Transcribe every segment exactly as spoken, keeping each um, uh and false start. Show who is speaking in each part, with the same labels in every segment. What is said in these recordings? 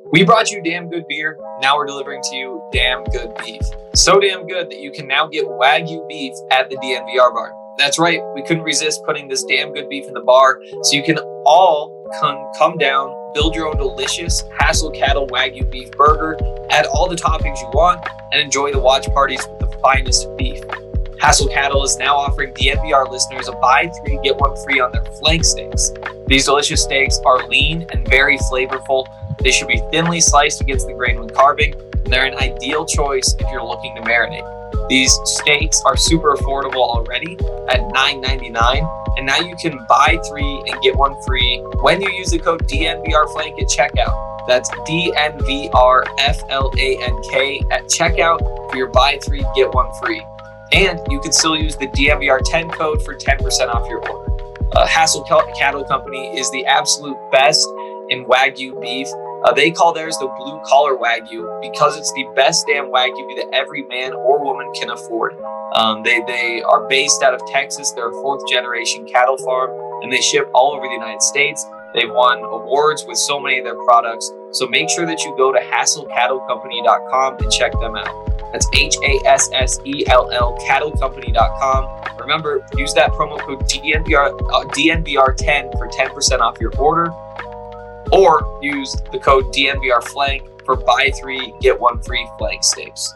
Speaker 1: We brought you damn good beer. Now we're delivering to you damn good beef. So damn good that you can now get Wagyu beef at the D N V R bar. That's right. We couldn't resist putting this damn good beef in the bar, so you can all come, come down, build your own delicious Hassel Cattle Wagyu beef burger, add all the toppings you want, and enjoy the watch parties with the finest beef. Hassel Cattle is now offering D N V R listeners a buy three, get one free on their flank steaks. These delicious steaks are lean and very flavorful. They should be thinly sliced against the grain when carving, and they're an ideal choice if you're looking to marinate. These steaks are super affordable already at nine ninety-nine, and now you can buy three and get one free when you use the code D N V R Flank at checkout. That's D N V R F L A N K at checkout for your buy three, get one free. And you can still use the D N V R ten code for ten percent off your order. Uh, Hassel Cattle Company is the absolute best in Wagyu beef. Uh, they call theirs the blue collar Wagyu because it's the best damn Wagyu that every man or woman can afford. Um, they, they are based out of Texas. They're a fourth generation cattle farm, and they ship all over the United States. They've won awards with so many of their products. So make sure that you go to hassel cattle company dot com and check them out. That's H A S S E L L cattle company dot com. Remember, use that promo code D N V R, uh, D N V R ten for ten percent off your order. Or use the code D N V R Flank for buy three, get one free flank steaks.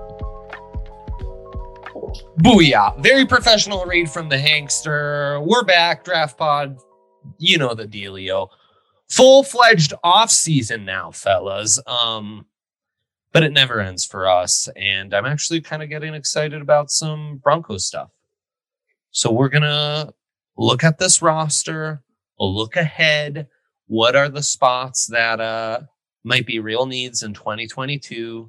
Speaker 2: Booyah. Very professional read from the Hankster. We're back, Draft Pod. You know the dealio. Full-fledged off-season now, fellas. Um, but it never ends for us. And I'm actually kind of getting excited about some Broncos stuff. So we're going to look at this roster, look ahead. What are the spots that uh, might be real needs in twenty twenty-two?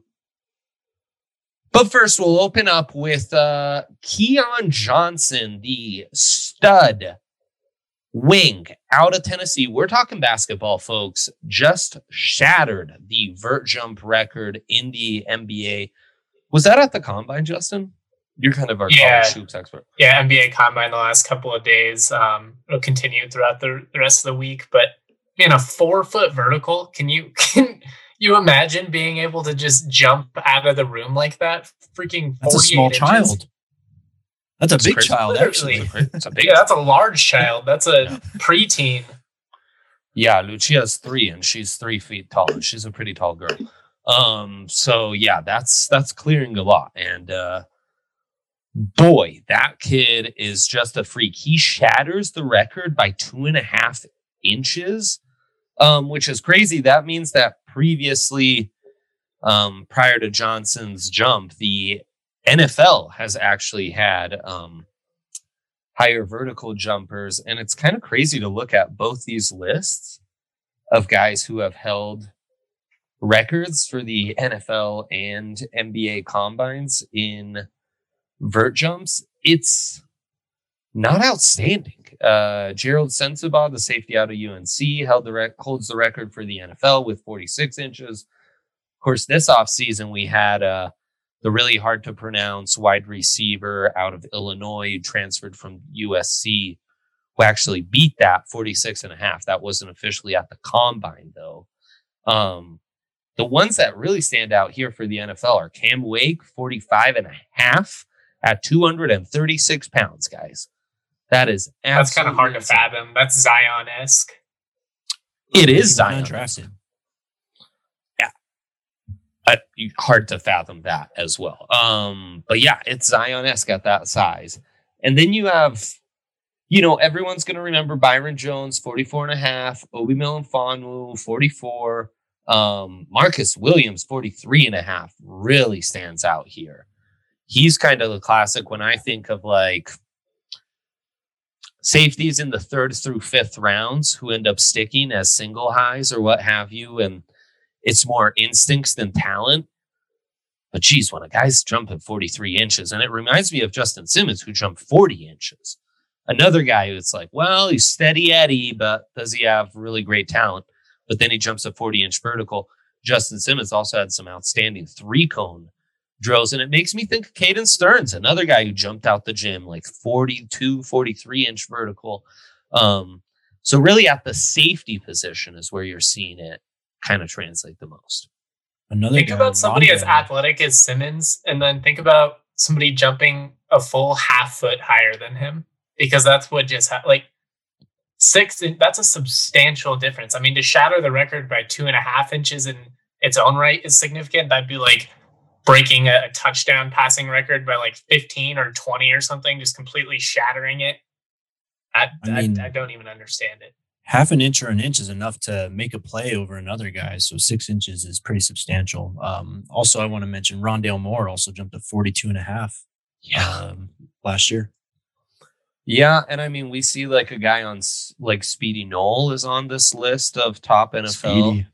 Speaker 2: But first, we'll open up with uh, Keon Johnson, the stud wing out of Tennessee. We're talking basketball, folks. Just shattered the vert jump record in the N B A. Was that at the Combine, Justin? You're kind of our
Speaker 3: yeah.
Speaker 2: college hoops expert.
Speaker 3: Yeah, N B A Combine the last couple of days. Um, it'll continue throughout the, the rest of the week, but man, a four foot vertical. Can you can you imagine being able to just jump out of the room like that? Freaking
Speaker 4: that's a small
Speaker 3: inches?
Speaker 4: Child. That's a
Speaker 2: That's
Speaker 4: big
Speaker 2: crazy.
Speaker 4: child,
Speaker 3: Literally.
Speaker 4: actually.
Speaker 2: It's a big
Speaker 3: Yeah, that's a large child. That's a preteen.
Speaker 2: Yeah, Lucia's three, and she's three feet tall. And she's a pretty tall girl. Um, so yeah, that's that's clearing a lot. And uh, boy, that kid is just a freak. He shatters the record by two and a half inches, um, which is crazy. That means that previously, um, prior to Johnson's jump, the N F L has actually had um, higher vertical jumpers. And it's kind of crazy to look at both these lists of guys who have held records for the N F L and N B A combines in vert jumps. It's not outstanding. Uh, Gerald Sensabaugh, the safety out of U N C, held the rec- holds the record for the N F L with forty-six inches. Of course, this offseason we had uh, the really hard to pronounce wide receiver out of Illinois, transferred from U S C, who actually beat that forty-six and a half. That wasn't officially at the combine, though. Um, the ones that really stand out here for the N F L are Cam Wake, forty-five and a half at two hundred thirty-six pounds, guys. That is
Speaker 3: That's kind of hard to
Speaker 2: insane.
Speaker 3: fathom. That's Zion-esque.
Speaker 2: It is Zion.
Speaker 4: Undrafted.
Speaker 2: Uh, hard to fathom that as well. Um, but yeah, it's Zion-esque at that size. And then you have, you know, everyone's going to remember Byron Jones, forty-four and a half, Obi Melifonwu, forty-four, um, Marcus Williams, forty-three and a half, really stands out here. He's kind of the classic when I think of like safeties in the third through fifth rounds who end up sticking as single highs or what have you. And it's more instincts than talent. But geez, when a guy's jumping forty-three inches, and it reminds me of Justin Simmons, who jumped forty inches. Another guy who's like, well, he's steady Eddie, but does he have really great talent? But then he jumps a forty inch vertical. Justin Simmons also had some outstanding three cone drills. And it makes me think of Caden Stearns, another guy who jumped out the gym, like forty-two, forty-three inch vertical. Um, so really at the safety position is where you're seeing it kind of translate the most.
Speaker 4: Another
Speaker 3: Think
Speaker 4: guy,
Speaker 3: about somebody as
Speaker 4: Rondo.
Speaker 3: athletic as Simmons, and then think about somebody jumping a full half foot higher than him, because that's what just ha- like six. That's a substantial difference. I mean, to shatter the record by two and a half inches in its own right is significant. That'd be like breaking a, a touchdown passing record by like fifteen or twenty or something, just completely shattering it. I,
Speaker 4: I mean-
Speaker 3: I, I don't even understand it.
Speaker 4: Half an inch or an inch is enough to make a play over another guy. So six inches is pretty substantial. Um, also, I want to mention Rondale Moore also jumped to forty-two and a half um, last year.
Speaker 2: Yeah, and I mean, we see like a guy on s- like Speedy Knoll is on this list of top N F L
Speaker 4: Speedy.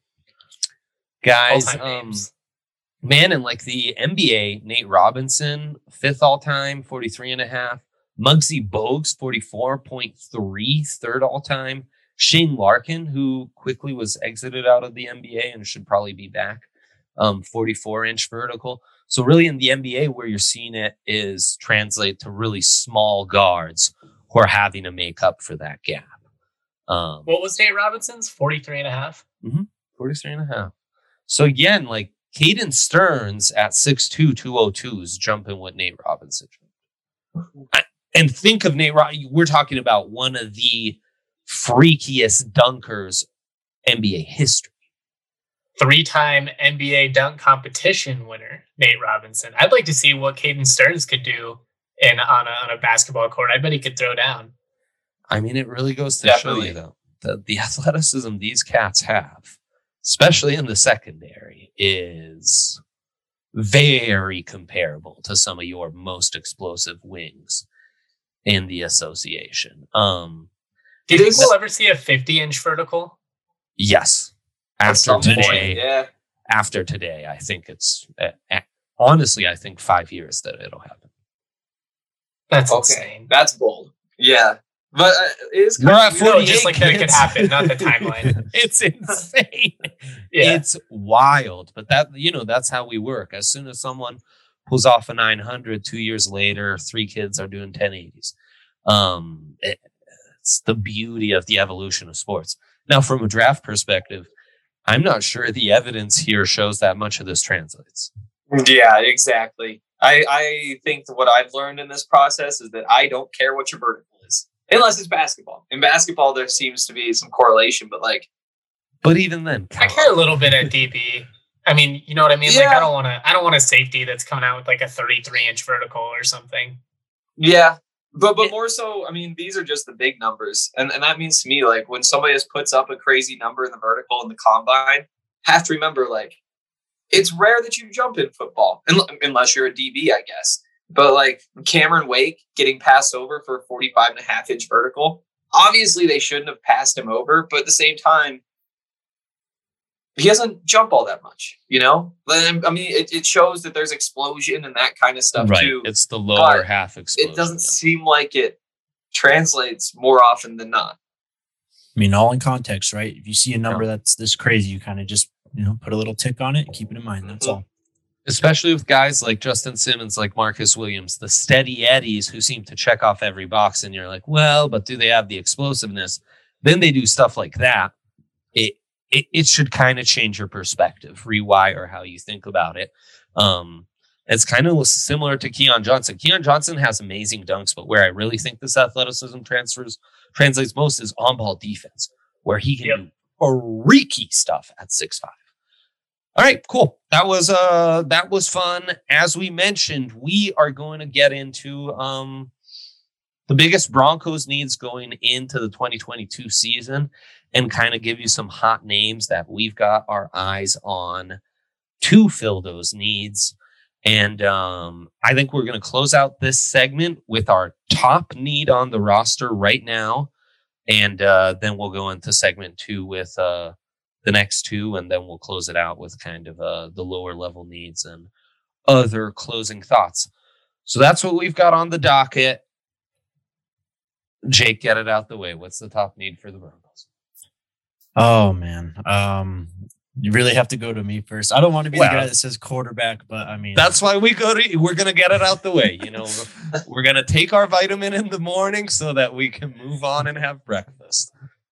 Speaker 2: guys.
Speaker 3: All-time
Speaker 2: Um,
Speaker 3: names.
Speaker 2: man, and like the N B A, Nate Robinson, fifth all time, forty-three and a half. Muggsy Bogues, forty-four point three, third all time. Shane Larkin, who quickly was exited out of the N B A and should probably be back, um, forty-four inch vertical. So really in the N B A, where you're seeing it is translate to really small guards who are having to make up for that gap. Um,
Speaker 3: What was Nate Robinson's? forty-three and a half?
Speaker 2: forty-three and a half. So again, like Caden Stearns at six two, two oh two is jumping what Nate Robinson jumped. I- And think of Nate Robinson. We're talking about one of the freakiest dunkers N B A history.
Speaker 3: Three-time N B A dunk competition winner, Nate Robinson. I'd like to see what Caden Stearns could do in on a, on a basketball court. I bet he could throw down.
Speaker 2: I mean, it really goes to
Speaker 1: Definitely.
Speaker 2: show you, though, that the athleticism these cats have, especially in the secondary, is very comparable to some of your most explosive wings in the association. Um,
Speaker 3: Do you think
Speaker 1: is-
Speaker 3: we'll ever see a fifty-inch vertical?
Speaker 2: yes.
Speaker 1: At
Speaker 2: After
Speaker 1: some point,
Speaker 2: today,
Speaker 1: yeah.
Speaker 2: after today, I think it's uh, uh, honestly, I think five years that it'll happen.
Speaker 3: That's
Speaker 1: Okay,
Speaker 3: insane.
Speaker 1: that's bold. Yeah, but uh, it is.
Speaker 2: We're at
Speaker 3: No,
Speaker 2: forty-eight.
Speaker 3: just like that could
Speaker 2: kids.
Speaker 3: happen, not the timeline.
Speaker 2: It's insane.
Speaker 3: Yeah.
Speaker 2: It's wild, but that, you know, that's how we work. As soon as someone pulls off a nine hundred, two years later, three kids are doing ten eighties. Um, it- it's the beauty of the evolution of sports. Now, from a draft perspective, I'm not sure the evidence here shows that much of this translates.
Speaker 1: Yeah, exactly. I, I think that what I've learned in this process is that I don't care what your vertical is, unless it's basketball. In basketball, there seems to be some correlation, but like,
Speaker 2: But even then,
Speaker 3: I care a little bit at D B. I mean, you know what I mean? Like,
Speaker 1: Yeah.
Speaker 3: I don't want to. I don't want a safety that's coming out with like a thirty-three inch vertical or something.
Speaker 1: yeah, but but more so, I mean, these are just the big numbers, and and that means to me, like, when somebody just puts up a crazy number in the vertical in the combine, have to remember, like, it's rare that you jump in football, un- unless you're a D B, I guess. But like Cameron Wake getting passed over for a forty-five and a half inch vertical, obviously they shouldn't have passed him over, but at the same time, he doesn't jump all that much, you know? But, I mean, it, it shows that there's explosion and that kind of stuff
Speaker 2: right.
Speaker 1: too.
Speaker 2: It's the lower
Speaker 1: But
Speaker 2: half explosion.
Speaker 1: It doesn't seem like it translates more often than not.
Speaker 4: I mean, all in context, right? If you see a number that's this crazy, you kind of just, you know, put a little tick on it and keep it in mind. That's all.
Speaker 2: Especially with guys like Justin Simmons, like Marcus Williams, the steady eddies who seem to check off every box. And you're like, well, but do they have the explosiveness? Then they do stuff like that. It it, it should kind of change your perspective, rewire how you think about it. Um, it's kind of similar to Keon Johnson. Keon Johnson has amazing dunks, but where I really think this athleticism transfers translates most is on-ball defense, where he can
Speaker 3: Yep.
Speaker 2: do freaky stuff at six five. All right, cool. That was uh that was fun. As we mentioned, we are going to get into um the biggest Broncos needs going into the twenty twenty-two season and kind of give you some hot names that we've got our eyes on to fill those needs. And um I think we're going to close out this segment with our top need on the roster right now. And uh then we'll go into segment two with uh the next two, and then we'll close it out with kind of uh, the lower level needs and other closing thoughts. So that's what we've got on the docket. Jake, get it out the way. What's the top need for the Broncos?
Speaker 4: Oh man, um, you really have to go to me first. I don't want to be
Speaker 2: Well,
Speaker 4: the guy that says quarterback, but I mean,
Speaker 2: That's why we go to, we're going to get it out the way. You know, we're going to take our vitamin in the morning so that we can move on and have breakfast.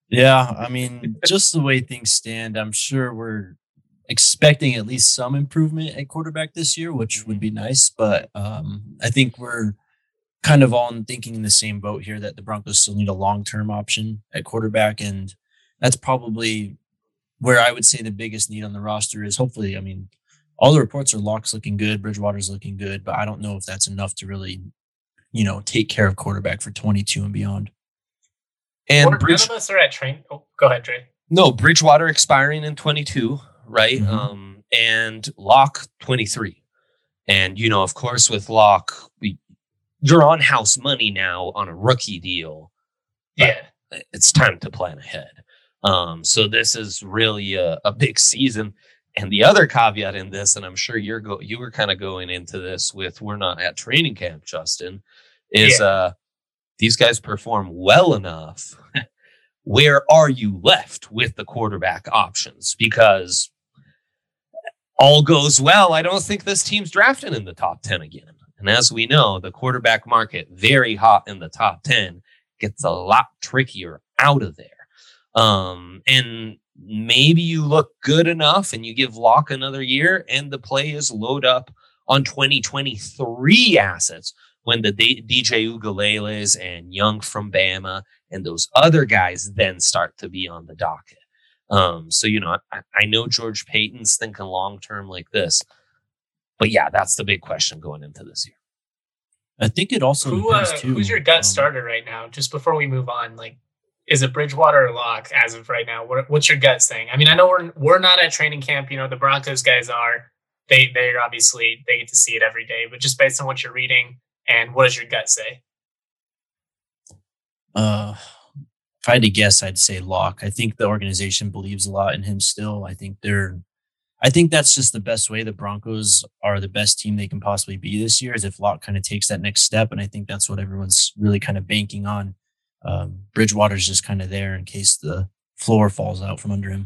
Speaker 4: Yeah, I mean, just the way things stand, I'm sure we're expecting at least some improvement at quarterback this year, which would be nice. But um, I think we're kind of all thinking in the same boat here that the Broncos still need a long term option at quarterback. And that's probably where I would say the biggest need on the roster is. Hopefully, I mean, all the reports are Locke's looking good, Bridgewater's looking good, but I don't know if that's enough to really, you know, take care of quarterback for twenty-two and beyond.
Speaker 2: And
Speaker 3: Or
Speaker 2: Bridge,
Speaker 3: none of us are at train. Oh, go ahead, Dre.
Speaker 2: no, Bridgewater expiring in twenty-two, right?
Speaker 4: Mhm.
Speaker 2: Um, and Locke twenty-three. And, you know, of course, with Locke, we, you're on house money now on a rookie deal.
Speaker 3: Yeah.
Speaker 2: It's time to plan ahead. Um, so this is really a, a big season. And the other caveat in this, and I'm sure you're go you were kind of going into this with we're not at training camp, Justin, is
Speaker 3: Yeah.
Speaker 2: uh these guys perform well enough. Where are you left with the quarterback options? Because all goes well, I don't think this team's drafting in the top ten again. And as we know, the quarterback market, very hot in the top ten, gets a lot trickier out of there. Um, and maybe you look good enough and you give Locke another year and the play is load up on twenty twenty-three assets when the D- DJ Ugaleles and Young from Bama and those other guys then start to be on the docket. Um, so, you know, I, I know George Payton's thinking long-term like this, but yeah, that's the big question going into this year.
Speaker 4: I think it also
Speaker 3: Who, uh,
Speaker 4: depends too.
Speaker 3: who's your gut
Speaker 4: um,
Speaker 3: starter right now? Just before we move on, like, is it Bridgewater or Locke as of right now? What, what's your gut saying? I mean, I know we're we're not at training camp. You know, the Broncos guys are. They they're obviously they get to see it every day. But just based on what you're reading, and what does your gut say?
Speaker 4: Uh, if I had to guess, I'd say Locke. I think the organization believes a lot in him still. I think they're, I think that's just the best way the Broncos are the best team they can possibly be this year is if Locke kind of takes that next step. And I think that's what everyone's really kind of banking on. Um, Bridgewater's just kind of there in case the floor falls out from under him.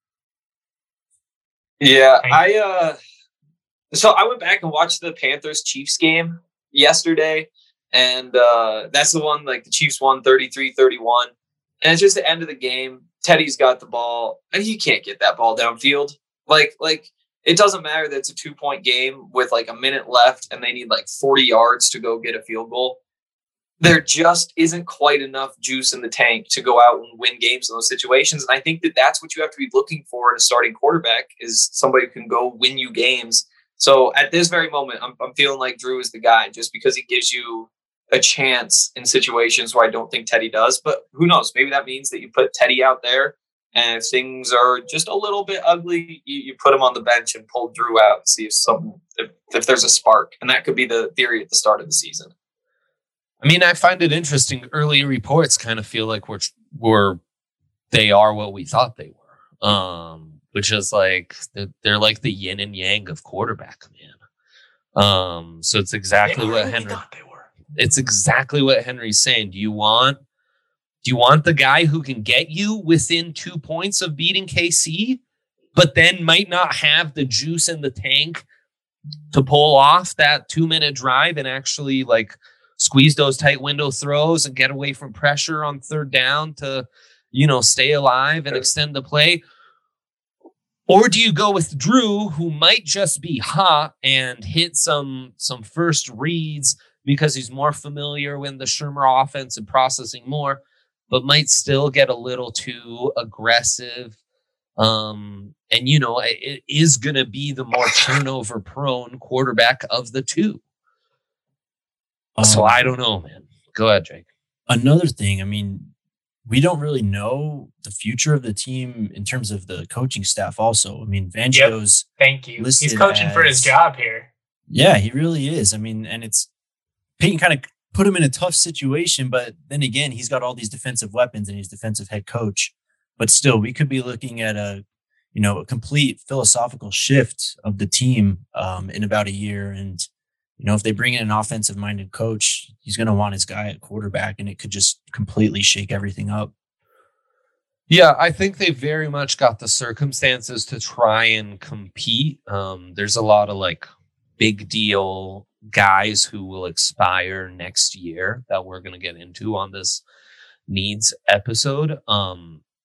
Speaker 1: Yeah, I uh so I went back and watched the Panthers Chiefs game yesterday, and uh that's the one like the Chiefs won thirty-three thirty-one. And it's just the end of the game. Teddy's got the ball, and he can't get that ball downfield. Like like it doesn't matter that it's a two-point game with like a minute left and they need like forty yards to go get a field goal. There just isn't quite enough juice in the tank to go out and win games in those situations. And I think that that's what you have to be looking for in a starting quarterback is somebody who can go win you games. So at this very moment, I'm, I'm feeling like Drew is the guy just because he gives you a chance in situations where I don't think Teddy does. But who knows? Maybe that means that you put Teddy out there and if things are just a little bit ugly, you, you put him on the bench and pull Drew out and see if some if, if there's a spark. And that could be the theory at the start of the season.
Speaker 2: I mean, I find it interesting. Early reports kind of feel like we're, we're they are what we thought they were, um, which is like they're, they're like the yin and yang of quarterback, man. Um, so it's exactly
Speaker 3: They
Speaker 2: what
Speaker 3: really
Speaker 2: Henry.
Speaker 3: thought they were.
Speaker 2: It's exactly what Henry's saying. Do you want? Do you want the guy who can get you within two points of beating K C, but then might not have the juice in the tank to pull off that two minute drive and actually like squeeze those tight window throws and get away from pressure on third down to, you know, stay alive and extend the play? Or do you go with Drew, who might just be hot and hit some some first reads because he's more familiar with the Shermer offense and processing more, but might still get a little too aggressive? Um, and, you know, it, it is going to be the more turnover prone quarterback of the two. So
Speaker 4: Um,
Speaker 2: I don't know, man. Go ahead, Jake.
Speaker 4: Another thing, I mean, we don't really know the future of the team in terms of the coaching staff also. I mean, Fangio's,
Speaker 3: Thank you. He's
Speaker 4: listed
Speaker 3: coaching for his
Speaker 4: as-
Speaker 3: job here.
Speaker 4: yeah, he really is. I mean, and it's, Peyton kind of put him in a tough situation, but then again, he's got all these defensive weapons and he's defensive head coach. But still, we could be looking at a, you know, a complete philosophical shift of the team um, in about a year. And, you know, if they bring in an offensive minded coach, he's going to want his guy at quarterback and it could just completely shake everything up.
Speaker 2: Yeah, I think they very much got the circumstances to try and compete. Um, there's a lot of like big deal guys who will expire next year that we're going to get into on this needs episode. Um,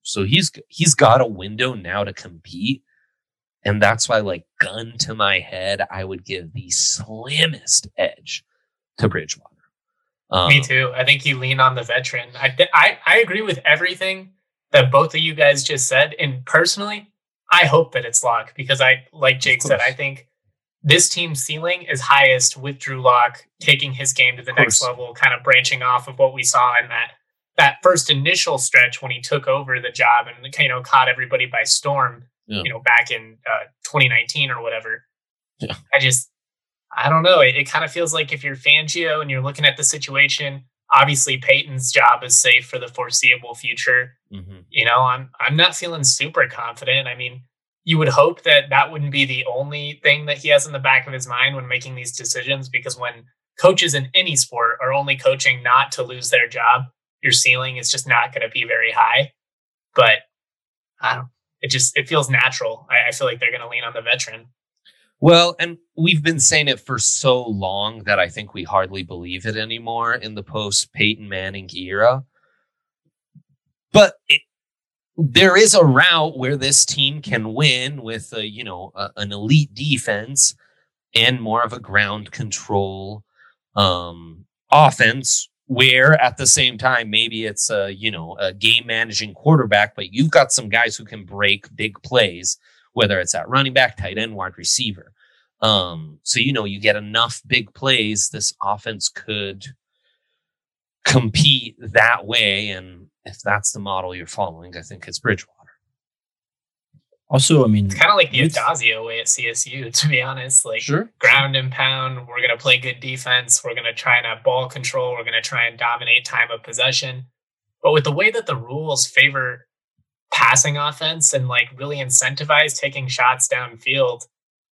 Speaker 2: So he's he's got a window now to compete. And that's why, like, gun to my head, I would give the slimmest edge to Bridgewater. Um,
Speaker 3: Me too. I think you lean on the veteran. I, th- I I agree with everything that both of you guys just said. And personally, I hope that it's Lock because I, like Jake said, I think this team's ceiling is highest with Drew Lock taking his game to the next level, kind of branching off of what we saw in that that first initial stretch when he took over the job and, you know, caught everybody by storm, yeah. you know, back in uh, twenty nineteen or whatever. Yeah. I just, I don't know. It, it kind of feels like if you're Fangio and you're looking at the situation, obviously Peyton's job is safe for the foreseeable future. Mm-hmm. You know, I'm I'm not feeling super confident. I mean, you would hope that that wouldn't be the only thing that he has in the back of his mind when making these decisions, because when coaches in any sport are only coaching not to lose their job, your ceiling is just not going to be very high. But I don't, it just, it feels natural. I, I feel like they're going to lean on the veteran.
Speaker 2: Well, and we've been saying it for so long that I think we hardly believe it anymore in the post Peyton Manning era. But it, there is a route where this team can win with a, you know, a, an elite defense and more of a ground control um, offense, where at the same time, maybe it's a, you know, a game managing quarterback, but you've got some guys who can break big plays, whether it's at running back, tight end, wide receiver. Um, so, you know, you get enough big plays, this offense could compete that way. And if that's the model you're following, I think it's Bridgewater.
Speaker 4: Also, I mean,
Speaker 3: it's kind of like the Adazio way at C S U, to be honest. Like,
Speaker 2: sure.
Speaker 3: Ground and pound, we're going to play good defense. We're going to try and have ball control. We're going to try and dominate time of possession. But with the way that the rules favor passing offense and like really incentivize taking shots downfield,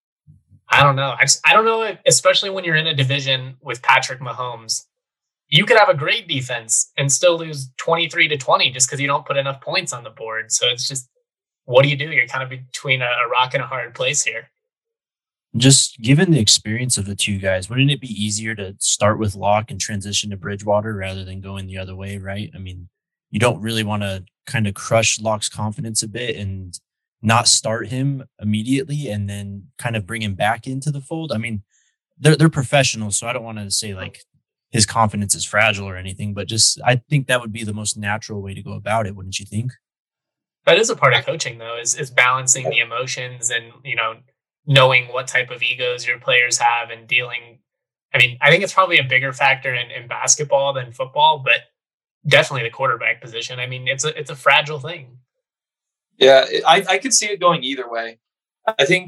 Speaker 3: I don't know. I just, I don't know, if, especially when you're in a division with Patrick Mahomes, you could have a great defense and still lose twenty-three to twenty just because you don't put enough points on the board. So it's just, what do you do? You're kind of between a, a rock and a hard place here.
Speaker 4: Just given the experience of the two guys, wouldn't it be easier to start with Locke and transition to Bridgewater rather than going the other way, right? I mean, you don't really want to kind of crush Locke's confidence a bit and not start him immediately and then kind of bring him back into the fold. I mean, they're they're professionals, so I don't want to say like his confidence is fragile or anything, but just I think that would be the most natural way to go about it, wouldn't you think?
Speaker 3: That is a part of coaching, though, is is balancing the emotions and, you know, knowing what type of egos your players have and dealing. I mean, I think it's probably a bigger factor in, in basketball than football, but definitely the quarterback position. I mean, it's a it's a fragile thing.
Speaker 1: Yeah, I, I could see it going either way. I think,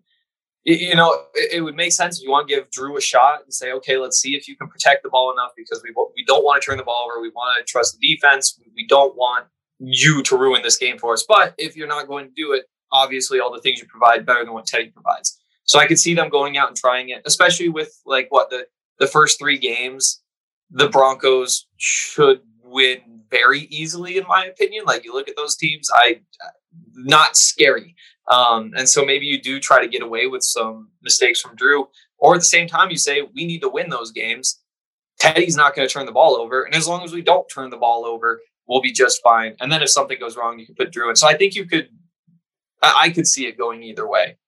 Speaker 1: you know, it, it would make sense if you want to give Drew a shot and say, okay, let's see if you can protect the ball enough because we we don't want to turn the ball over. We want to trust the defense. We don't want you to ruin this game for us. But if you're not going to do it, obviously all the things you provide better than what Teddy provides. So I could see them going out and trying it, especially with like what the, the first three games, the Broncos should win very easily, in my opinion. Like you look at those teams, I not scary. Um, and so maybe you do try to get away with some mistakes from Drew, or at the same time you say, we need to win those games. Teddy's not going to turn the ball over. And as long as we don't turn the ball over, we'll be just fine. And then if something goes wrong, you can put Drew in. So I think you could, I could see it going either way.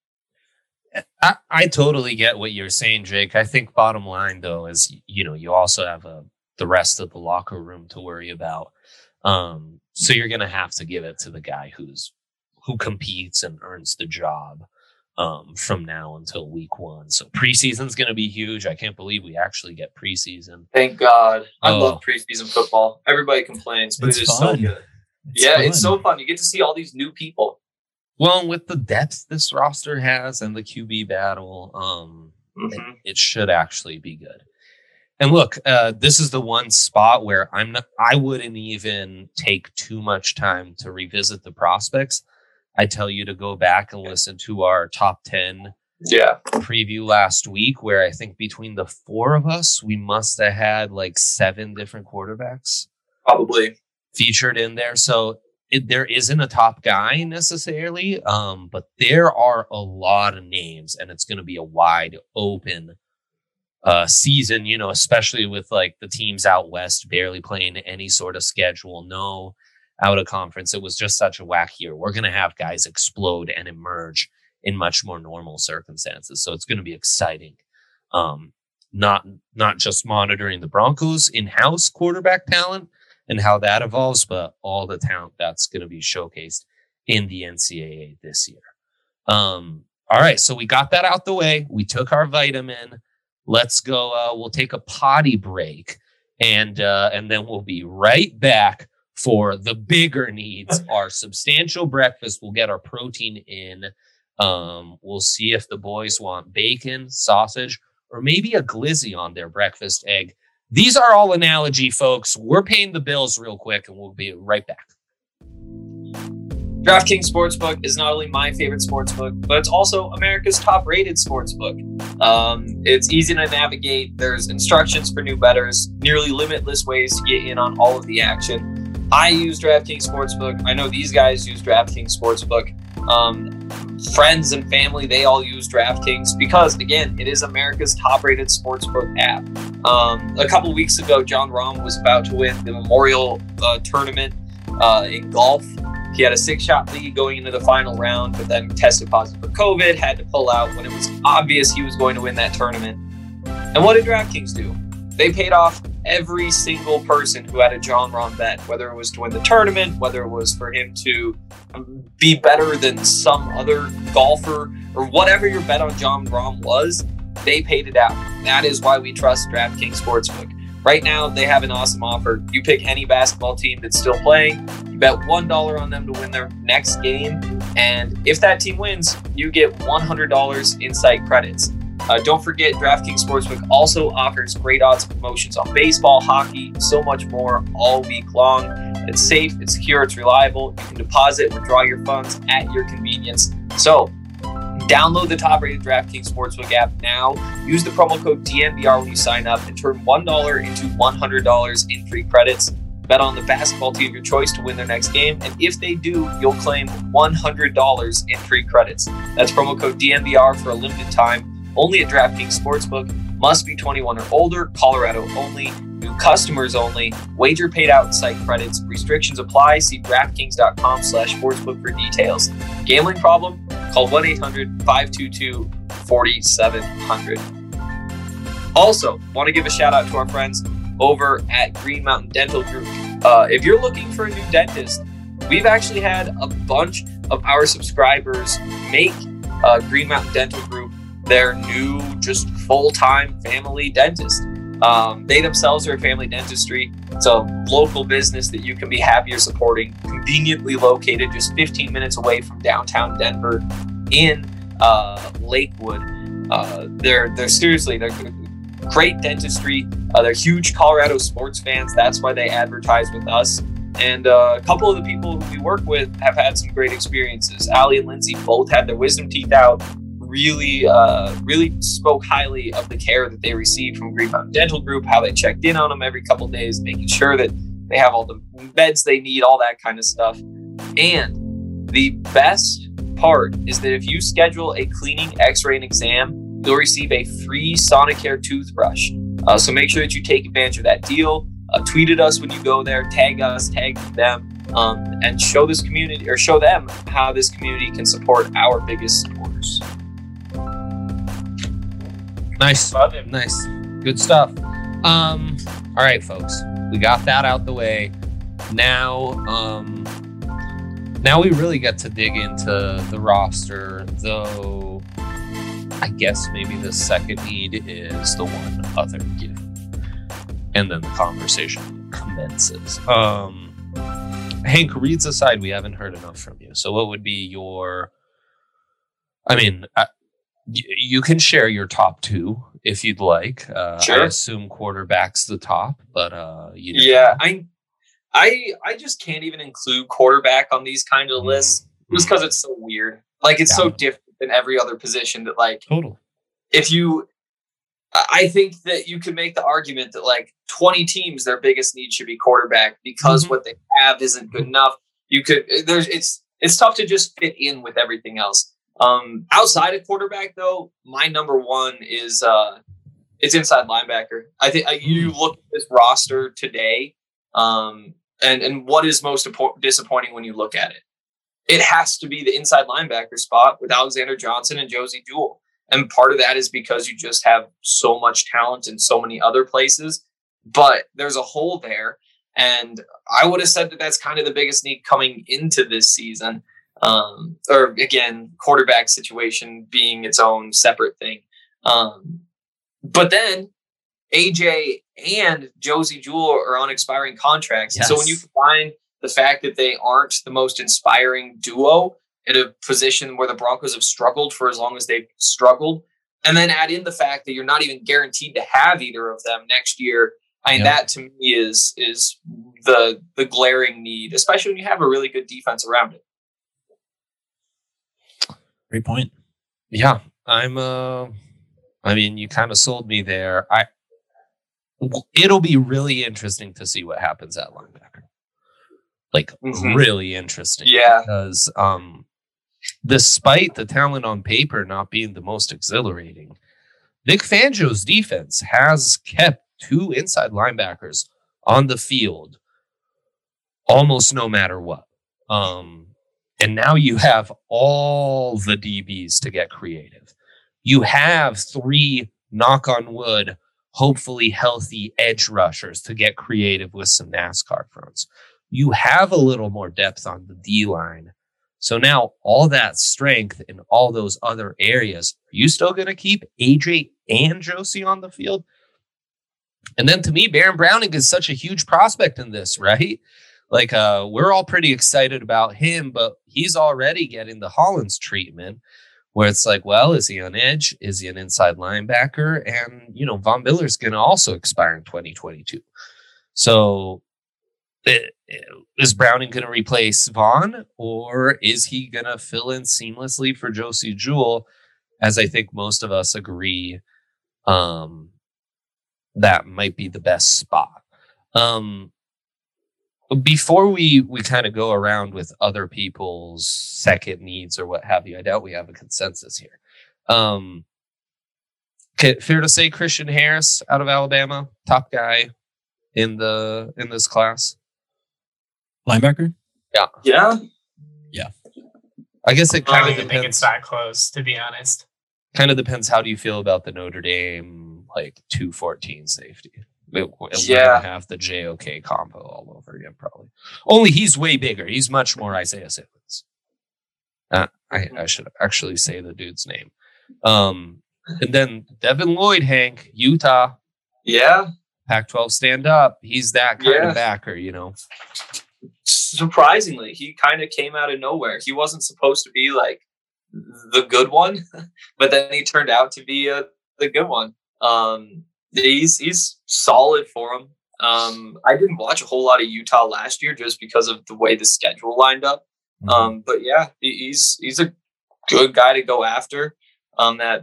Speaker 2: I, I totally get what you're saying, Jake. I think bottom line, though, is, you know, you also have a, the rest of the locker room to worry about. Um, so you're going to have to give it to the guy who's, who competes and earns the job um, from now until week one. So preseason's going to be huge. I can't believe we actually get preseason.
Speaker 1: Thank God. I
Speaker 2: Oh.
Speaker 1: love preseason football. Everybody complains, but
Speaker 4: It's
Speaker 1: it is
Speaker 4: fun.
Speaker 1: so good.
Speaker 4: It's
Speaker 1: yeah,
Speaker 4: fun.
Speaker 1: it's so fun. You get to see all these new people.
Speaker 2: Well, with the depth this roster has and the Q B battle, um,
Speaker 1: Mhm.
Speaker 2: it, it should actually be good. And look, uh, this is the one spot where I'm not, I wouldn't even take too much time to revisit the prospects. I tell you to go back and listen to our top ten
Speaker 1: Yeah.
Speaker 2: preview last week, where I think between the four of us, we must have had like seven different quarterbacks
Speaker 1: Probably.
Speaker 2: featured in there. So it, there isn't a top guy necessarily, um, but there are a lot of names, and it's going to be a wide open uh, season, you know, especially with like the teams out west barely playing any sort of schedule. No out of conference. It was just such a whack year. We're going to have guys explode and emerge in much more normal circumstances. So it's going to be exciting. Um, not, not just monitoring the Broncos in-house quarterback talent and how that evolves, but all the talent that's going to be showcased in the N C double A this year. Um, all right. So we got that out the way. We took our vitamin. Let's go. Uh, we'll take a potty break and, uh, and then we'll be right back for the bigger needs, our substantial breakfast. We'll get our protein in. Um, we'll see if the boys want bacon, sausage, or maybe a glizzy on their breakfast egg. These are all analogy, folks. We're paying the bills real quick, and we'll be right back.
Speaker 1: DraftKings Sportsbook is not only my favorite sportsbook, but it's also America's top-rated sportsbook. Um, it's easy to navigate. There's instructions for new bettors, nearly limitless ways to get in on all of the action. I use DraftKings Sportsbook. I know these guys use DraftKings Sportsbook. Um, friends and family, they all use DraftKings because, again, it is America's top-rated sportsbook app. Um, a couple weeks ago, John Rahm was about to win the Memorial uh, Tournament uh, in golf. He had a six-shot lead going into the final round, but then tested positive for COVID, had to pull out when it was obvious he was going to win that tournament. And what did DraftKings do? They paid off every single person who had a John Rahm bet, whether it was to win the tournament, whether it was for him to be better than some other golfer, or whatever your bet on John Rahm was, they paid it out. That is why we trust DraftKings Sportsbook. Right now, they have an awesome offer. You pick any basketball team that's still playing, you bet one dollar on them to win their next game, and if that team wins, you get one hundred dollars in site credits. Uh, don't forget, DraftKings Sportsbook also offers great odds promotions on baseball, hockey, so much more all week long. It's safe, it's secure, it's reliable. You can deposit, withdraw your funds at your convenience. So, download the top-rated DraftKings Sportsbook app now. Use the promo code D N V R when you sign up and turn one dollar into one hundred dollars in free credits. Bet on the basketball team of your choice to win their next game, and if they do, you'll claim one hundred dollars in free credits. That's promo code D N V R for a limited time. Only at DraftKings Sportsbook. Must be twenty-one or older. Colorado only. New customers only. Wager paid out in site credits. Restrictions apply. See DraftKings.com slash sportsbook for details. Gambling problem? Call one eight hundred five two two four seven zero zero. Also, want to give a shout out to our friends over at Green Mountain Dental Group. Uh, if you're looking for a new dentist, we've actually had a bunch of our subscribers make uh, Green Mountain Dental Group their new just full-time family dentist. Um, they themselves are a family dentistry. It's a local business that you can be happier supporting, conveniently located just fifteen minutes away from downtown Denver in uh, Lakewood. Uh, they're they're seriously, they're great dentistry. Uh, they're huge Colorado sports fans. That's why they advertise with us. And uh, a couple of the people who we work with have had some great experiences. Allie and Lindsay both had their wisdom teeth out. Really, uh, really spoke highly of the care that they received from Green Mountain Dental Group, how they checked in on them every couple of days, making sure that they have all the beds they need, all that kind of stuff. And the best part is that if you schedule a cleaning, x-ray, and exam, you'll receive a free Sonicare toothbrush. Uh, so make sure that you take advantage of that deal. Uh, tweet at us when you go there, tag us, tag them, um, and show this community or show them how this community can support our biggest supporters.
Speaker 2: Nice.
Speaker 3: Love it.
Speaker 2: Nice. Good stuff. Um, all right, folks. We got that out the way. Now, um, now we really get to dig into the roster, though I guess maybe the second need is the one other given. And then the conversation commences. Um, Hank, reads aside, we haven't heard enough from you. So what would be your, I mean, I, you can share your top two if you'd like. Uh,
Speaker 1: Sure.
Speaker 2: I assume quarterback's the top, but uh, you know.
Speaker 1: Yeah, I, I, I just can't even include quarterback on these kind of
Speaker 2: Mm,
Speaker 1: lists just
Speaker 2: mm.
Speaker 1: because it's so weird. Like it's so
Speaker 2: Yeah.
Speaker 1: different than every other position that, like,
Speaker 2: Total.
Speaker 1: if you, I think that you could make the argument that like twenty teams, their biggest need should be quarterback because
Speaker 2: Mhm.
Speaker 1: what they have isn't good enough. You could, there's, it's, it's tough to just fit in with everything else. Um, outside of quarterback though, my number one is, uh, it's inside linebacker. I think uh, you look at this roster today. Um, and and what is most disappointing when you look at it? It has to be the inside linebacker spot with Alexander Johnson and Josey Jewell. And part of that is because you just have so much talent in so many other places. But there's a hole there. And I would have said that that's kind of the biggest need coming into this season. Um, or again, quarterback situation being its own separate thing. Um, but then A J and Josey Jewell are on expiring contracts. Yes. So when you combine the fact that they aren't the most inspiring duo at a position where the Broncos have struggled for as long as they've struggled, and then add in the fact that you're not even guaranteed to have either of them next year, I mean, yep. that to me is is the the glaring need, especially when you have a really good defense around it.
Speaker 4: Great point.
Speaker 2: Yeah, I'm. Uh, I mean, you kind of sold me there. I. It'll be really interesting to see what happens at linebacker. Like mm-hmm. really interesting.
Speaker 1: Yeah.
Speaker 2: Because um, despite the talent on paper not being the most exhilarating, Vic Fangio's defense has kept two inside linebackers on the field almost no matter what. Um, and now you have all the D Bs to get creative. You have three, knock on wood, hopefully healthy edge rushers to get creative with some NASCAR fronts. You have a little more depth on the D-line. So now all that strength in all those other areas, are you still going to keep A J and Josey on the field? And then to me, Baron Browning is such a huge prospect in this, right? Like, uh, we're all pretty excited about him, but he's already getting the Hollins treatment where it's like, well, is he on edge? Is he an inside linebacker? And, you know, Von Miller's going to also expire in twenty twenty-two. So it, it, is Browning going to replace Von, or is he going to fill in seamlessly for Josey Jewell? As I think most of us agree, um, that might be the best spot. Um, Before we, we kind of go around with other people's second needs or what have you, I doubt we have a consensus here. Um, fair to say Christian Harris out of Alabama, top guy in the in this class.
Speaker 4: Linebacker?
Speaker 1: Yeah. Yeah.
Speaker 4: Yeah.
Speaker 2: I guess it kind
Speaker 3: I
Speaker 2: of
Speaker 3: don't
Speaker 2: depends.
Speaker 3: think it's that close, to be honest.
Speaker 2: Kind of depends. How do you feel about the Notre Dame like two fourteen safety? We're
Speaker 1: yeah.
Speaker 2: going to have the J O K combo all over again, probably. Only he's way bigger. He's much more Isaiah Simmons. Uh, I, I should actually say the dude's name. Um, and then Devin Lloyd, Hank, Utah.
Speaker 1: Yeah.
Speaker 2: Pac twelve stand up. He's that kind
Speaker 1: yeah.
Speaker 2: of backer, you know.
Speaker 1: Surprisingly, he kind of came out of nowhere. He wasn't supposed to be like the good one, but then he turned out to be uh, the good one. Um, He's he's solid for him. Um, I didn't watch a whole lot of Utah last year just because of the way the schedule lined up. Mm-hmm. Um, but yeah, he, he's he's a good guy to go after. Um, that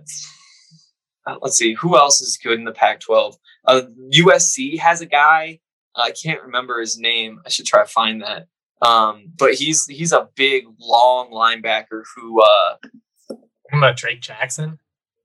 Speaker 1: uh, let's see, who else is good in the Pac twelve? Uh, U S C has a guy. Uh, I can't remember his name. I should try to find that. Um, but he's he's a big, long linebacker who. Uh,
Speaker 3: What about Drake Jackson?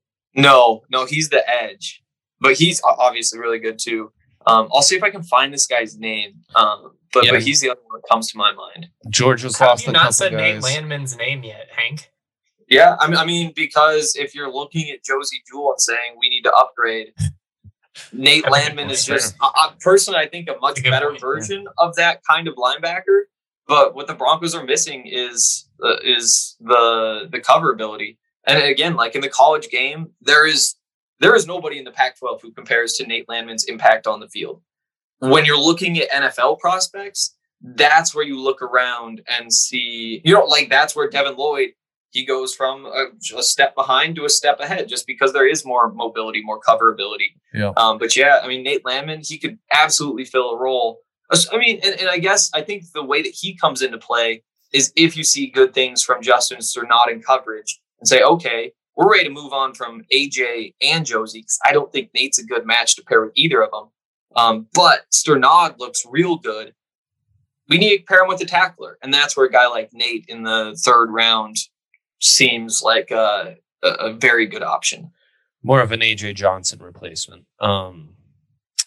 Speaker 1: No, no, he's the edge. But he's obviously really good too. Um, I'll see if I can find this guy's name. Um, but,
Speaker 2: yeah.
Speaker 1: but he's the other one that comes to my mind.
Speaker 2: Georgia's
Speaker 3: How
Speaker 2: lost
Speaker 3: have you
Speaker 2: a
Speaker 3: not
Speaker 2: couple
Speaker 3: said
Speaker 2: guys.
Speaker 3: Nate Landman's name yet, Hank?
Speaker 1: Yeah, I mean, I mean, because if you're looking at Josey Jewell and saying we need to upgrade, Nate
Speaker 3: That's
Speaker 1: Landman is just uh, uh, personally, I think, a much
Speaker 3: a
Speaker 1: better
Speaker 3: point,
Speaker 1: version yeah. of that kind of linebacker. But what the Broncos are missing is uh, is the the cover ability. And again, like in the college game, there is. There is nobody in the Pac twelve who compares to Nate Landman's impact on the field. When you're looking at N F L prospects, that's where you look around and see, you know, like that's where Devin Lloyd, he goes from a, a step behind to a step ahead just because there is more mobility, more cover ability.
Speaker 2: Yeah.
Speaker 1: Um, but yeah, I mean, Nate Landman, he could absolutely fill a role. I mean, and, and I guess I think the way that he comes into play is if you see good things from Justin Sternad in coverage and say, okay, we're ready to move on from A J and Josey because I don't think Nate's a good match to pair with either of them. Um, but Sternad looks real good. We need to pair him with a tackler. And that's where a guy like Nate in the third round seems like a, a, a very good option.
Speaker 2: More of an A J Johnson replacement. Um,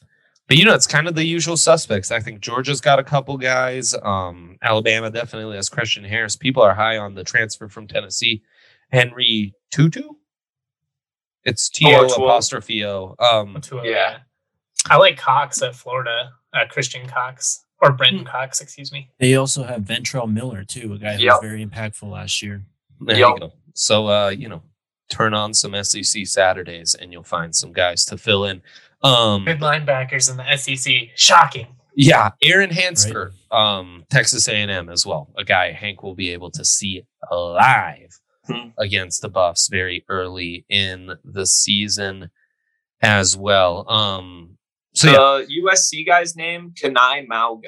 Speaker 2: But, you know, it's kind of the usual suspects. I think Georgia's got a couple guys. Um, Alabama definitely has Christian Harris. People are high on the transfer from Tennessee, Henry Tutu. It's T O apostrophe O. Um,
Speaker 3: yeah. I like Cox at Florida, uh, Christian Cox, or Brenton Cox, excuse me.
Speaker 4: They also have Ventrell Miller, too, a guy who
Speaker 1: yep.
Speaker 4: was very impactful last year.
Speaker 2: There yep. you go. So, uh, you know, turn on some S E C Saturdays and you'll find some guys to fill in. Um,
Speaker 3: Good linebackers in the S E C. Shocking.
Speaker 2: Yeah. Aaron Hansford, right. um, Texas A and M as well. A guy Hank will be able to see live hmm. against the Buffs very early in the season as well. Um, so,
Speaker 1: the
Speaker 2: yeah.
Speaker 1: U S C guy's name, Kanai Mauga.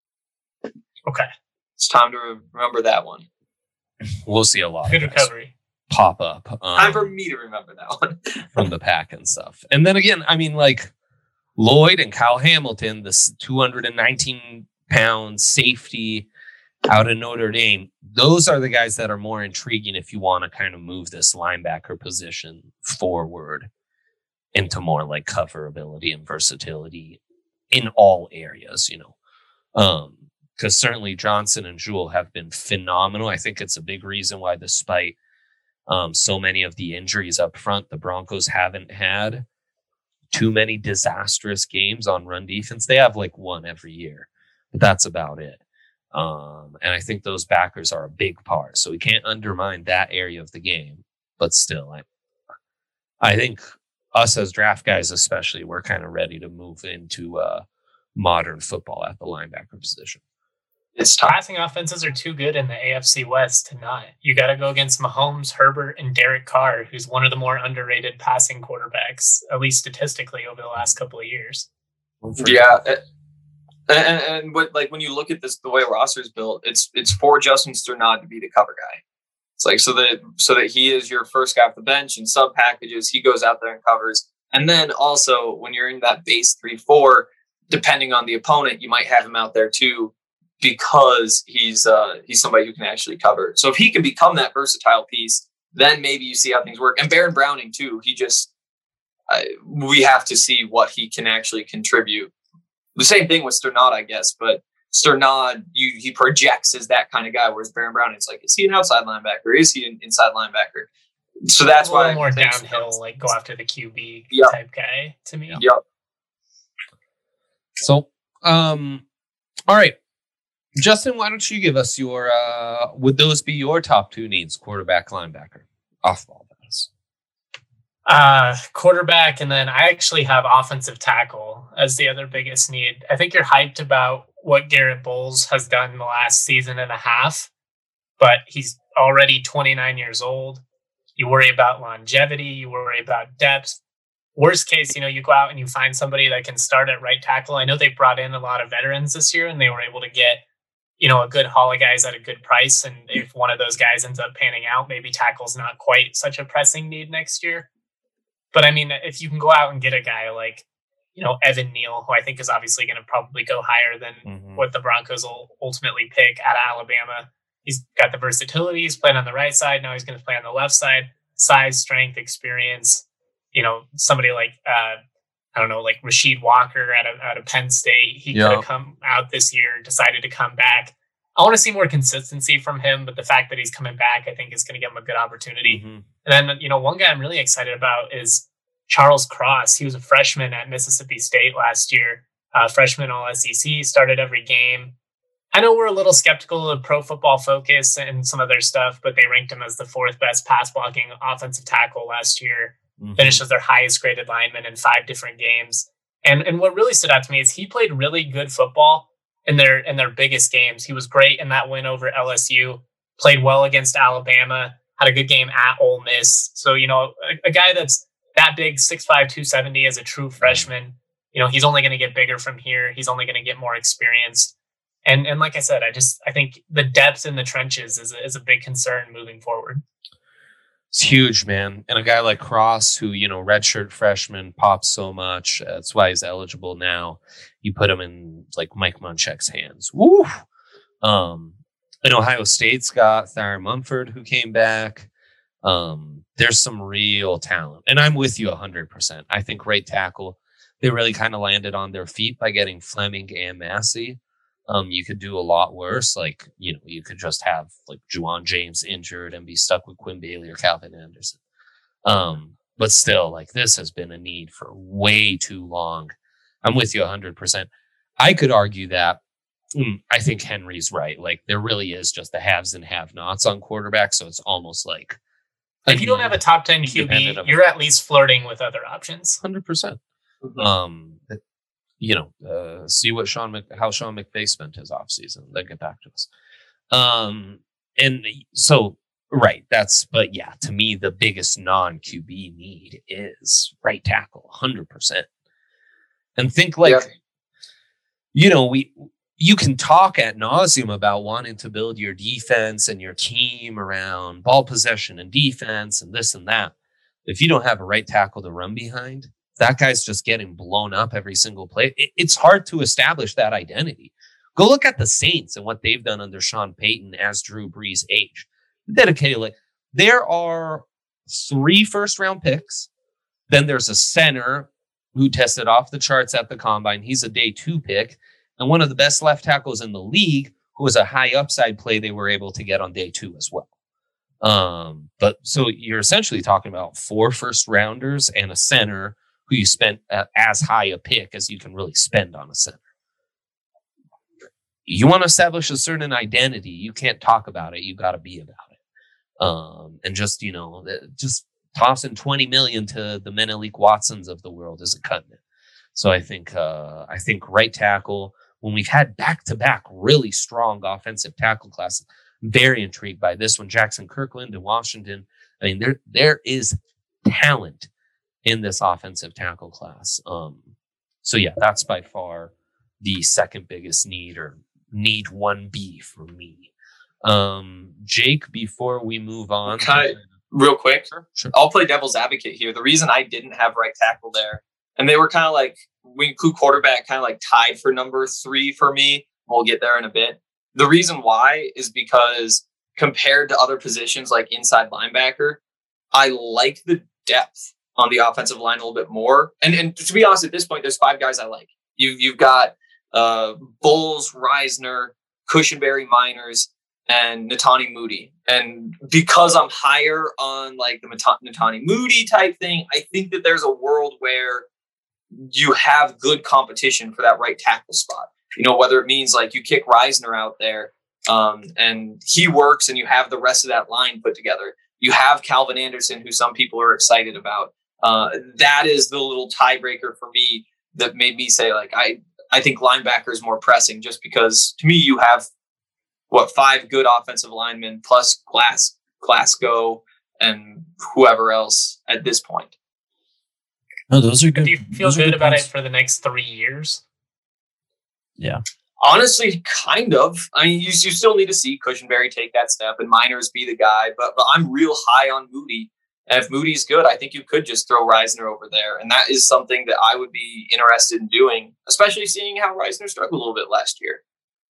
Speaker 3: Okay.
Speaker 1: It's time to remember that one.
Speaker 2: We'll see a lot.
Speaker 3: Good recovery.
Speaker 2: Pop up. Um,
Speaker 1: Time for me to remember that one.
Speaker 2: from the pack and stuff. And then again, I mean, like Lloyd and Kyle Hamilton, this two hundred nineteen pound safety out of Notre Dame. Those are the guys that are more intriguing if you want to kind of move this linebacker position forward into more like coverability and versatility in all areas, you know. Um, because certainly Johnson and Jewell have been phenomenal. I think it's a big reason why, despite Um, so many of the injuries up front, the Broncos haven't had too many disastrous games on run defense. They have like one every year, but that's about it. Um, and I think those backers are a big part. So we can't undermine that area of the game. But still, I, I think us as draft guys, especially, we're kind of ready to move into uh, modern football at the linebacker position.
Speaker 3: It's passing offenses are too good in the A F C West to not. You got to go against Mahomes, Herbert, and Derek Carr, who's one of the more underrated passing quarterbacks, at least statistically, over the last couple of years.
Speaker 1: Yeah, and, and what, like when you look at this, the way roster is built, it's it's for Justin Sternad to be the cover guy. It's like so that so that he is your first guy off the bench in sub packages. He goes out there and covers, and then also when you're in that base three four, depending on the opponent, you might have him out there too, because he's uh, he's somebody who can actually cover. So if he can become that versatile piece, then maybe you see how things work. And Baron Browning too. He just uh, we have to see what he can actually contribute. The same thing with Sternad, I guess, but Sternad, you he projects as that kind of guy, whereas Baron Browning's like, is he an outside linebacker? Is he an inside linebacker? So that's
Speaker 3: a
Speaker 1: why
Speaker 3: more downhill, like go after the Q B
Speaker 1: yep.
Speaker 3: type guy to me.
Speaker 1: Yep.
Speaker 2: So, um, all right. Justin, why don't you give us your, uh, would those be your top two needs, quarterback, linebacker, off-ball guys?
Speaker 3: Uh, quarterback, and then I actually have offensive tackle as the other biggest need. I think you're hyped about what Garrett Bowles has done in the last season and a half, but he's already twenty-nine years old. You worry about longevity, you worry about depth. Worst case, you know, you go out and you find somebody that can start at right tackle. I know they brought in a lot of veterans this year and they were able to get, you know, a good haul of guys at a good price. And if one of those guys ends up panning out, maybe tackle's not quite such a pressing need next year. But I mean, if you can go out and get a guy like, you know, Evan Neal, who I think is obviously going to probably go higher than mm-hmm. what the Broncos will ultimately pick out of Alabama. He's got the versatility. He's playing on the right side. Now he's going to play on the left side. Size, strength, experience. You know, somebody like, uh, I don't know, like Rasheed Walker out of, out of Penn State. He yeah. could have come out this year, decided to come back. I want to see more consistency from him, but the fact that he's coming back, I think is going to give him a good opportunity. Mm-hmm. And then, you know, one guy I'm really excited about is Charles Cross. He was a freshman at Mississippi State last year, uh, freshman all S E C, started every game. I know we're a little skeptical of Pro Football Focus and some of their stuff, but they ranked him as the fourth best pass blocking offensive tackle last year. Mm-hmm. Finished as their highest graded lineman in five different games. And and what really stood out to me is he played really good football in their in their biggest games. He was great in that win over L S U, played well against Alabama, had a good game at Ole Miss. So, you know, a, a guy that's that big, six five, two seventy as a true freshman, you know, he's only going to get bigger from here. He's only going to get more experienced. And and like I said, I just I think the depth in the trenches is a, is a big concern moving forward.
Speaker 2: It's huge, man. And a guy like Cross, who, you know, redshirt freshman, pops so much. That's why he's eligible now. You put him in like Mike Munchak's hands. Woo! Um, and Ohio State's got Thayer Munford, who came back. Um, there's some real talent. And I'm with you one hundred percent. I think right tackle, they really kind of landed on their feet by getting Fleming and Massey. Um, you could do a lot worse. Like, you know, you could just have like Juwan James injured and be stuck with Quinn Bailey or Calvin Anderson. Um, but still, like, this has been a need for way too long. I'm with you one hundred percent. I could argue that mm, I think Henry's right. Like, there really is just the haves and have-nots on quarterback, so it's almost like
Speaker 3: if you don't have a top ten Q B, you're at least flirting with other options.
Speaker 2: one hundred percent.
Speaker 1: Mhm.
Speaker 2: Um, you know, uh, see what Sean Mc, how Sean McVay spent his offseason, then get back to us. Um, and so, right, that's, but yeah, to me, the biggest non-Q B need is right tackle, one hundred percent. And think like,
Speaker 1: Yeah.
Speaker 2: you know, we, you can talk ad nauseum about wanting to build your defense and your team around ball possession and defense and this and that. If you don't have a right tackle to run behind, that guy's just getting blown up every single play. It, it's hard to establish that identity. Go look at the Saints and what they've done under Sean Payton as Drew Brees aged. Dedicated, like, there are three first round picks. Then there's a center who tested off the charts at the combine. He's a day two pick. And one of the best left tackles in the league, who was a high upside play they were able to get on day two as well. Um, but so you're essentially talking about four first rounders and a center who you spent uh, as high a pick as you can really spend on a center. You want to establish a certain identity. You can't talk about it. You got to be about it. Um, and just, you know, just tossing twenty million to the Menelik Watsons of the world isn't cutting it. So I think, uh, I think right tackle, when we've had back to back really strong offensive tackle classes, I'm very intrigued by this one. Jackson Kirkland in Washington. I mean, there, there is talent in this offensive tackle class. Um, so yeah, that's by far the second biggest need, or need one B for me. Um, Jake, before we move on.
Speaker 1: Okay. Real quick,
Speaker 2: Sure.
Speaker 1: I'll play devil's advocate here. The reason I didn't have right tackle there, and they were kind of like, we include quarterback kind of like tied for number three for me. We'll get there in a bit. The reason why is because compared to other positions like inside linebacker, I like the depth on the offensive line a little bit more. And and to be honest, at this point, there's five guys I like. You've, you've got uh, Bowles, Reisner, Cushenberry, Miners, and Natani Moody. And because I'm higher on like the Natani Moody type thing, I think that there's a world where you have good competition for that right tackle spot. You know, whether it means like you kick Reisner out there um, and he works and you have the rest of that line put together. You have Calvin Anderson, who some people are excited about. Uh, that is the little tiebreaker for me that made me say, like, I, I think linebacker is more pressing, just because to me, you have what, five good offensive linemen plus Glass, Glasgow and whoever else at this point.
Speaker 4: No, those are good.
Speaker 3: Do you feel good, good about points. It for the next three years?
Speaker 4: Yeah.
Speaker 1: Honestly, kind of. I mean, you, you still need to see Cushenberry take that step and Miners be the guy, but, but I'm real high on Moody. And if Moody's good, I think you could just throw Reisner over there. And that is something that I would be interested in doing, especially seeing how Reisner struggled a little bit last year.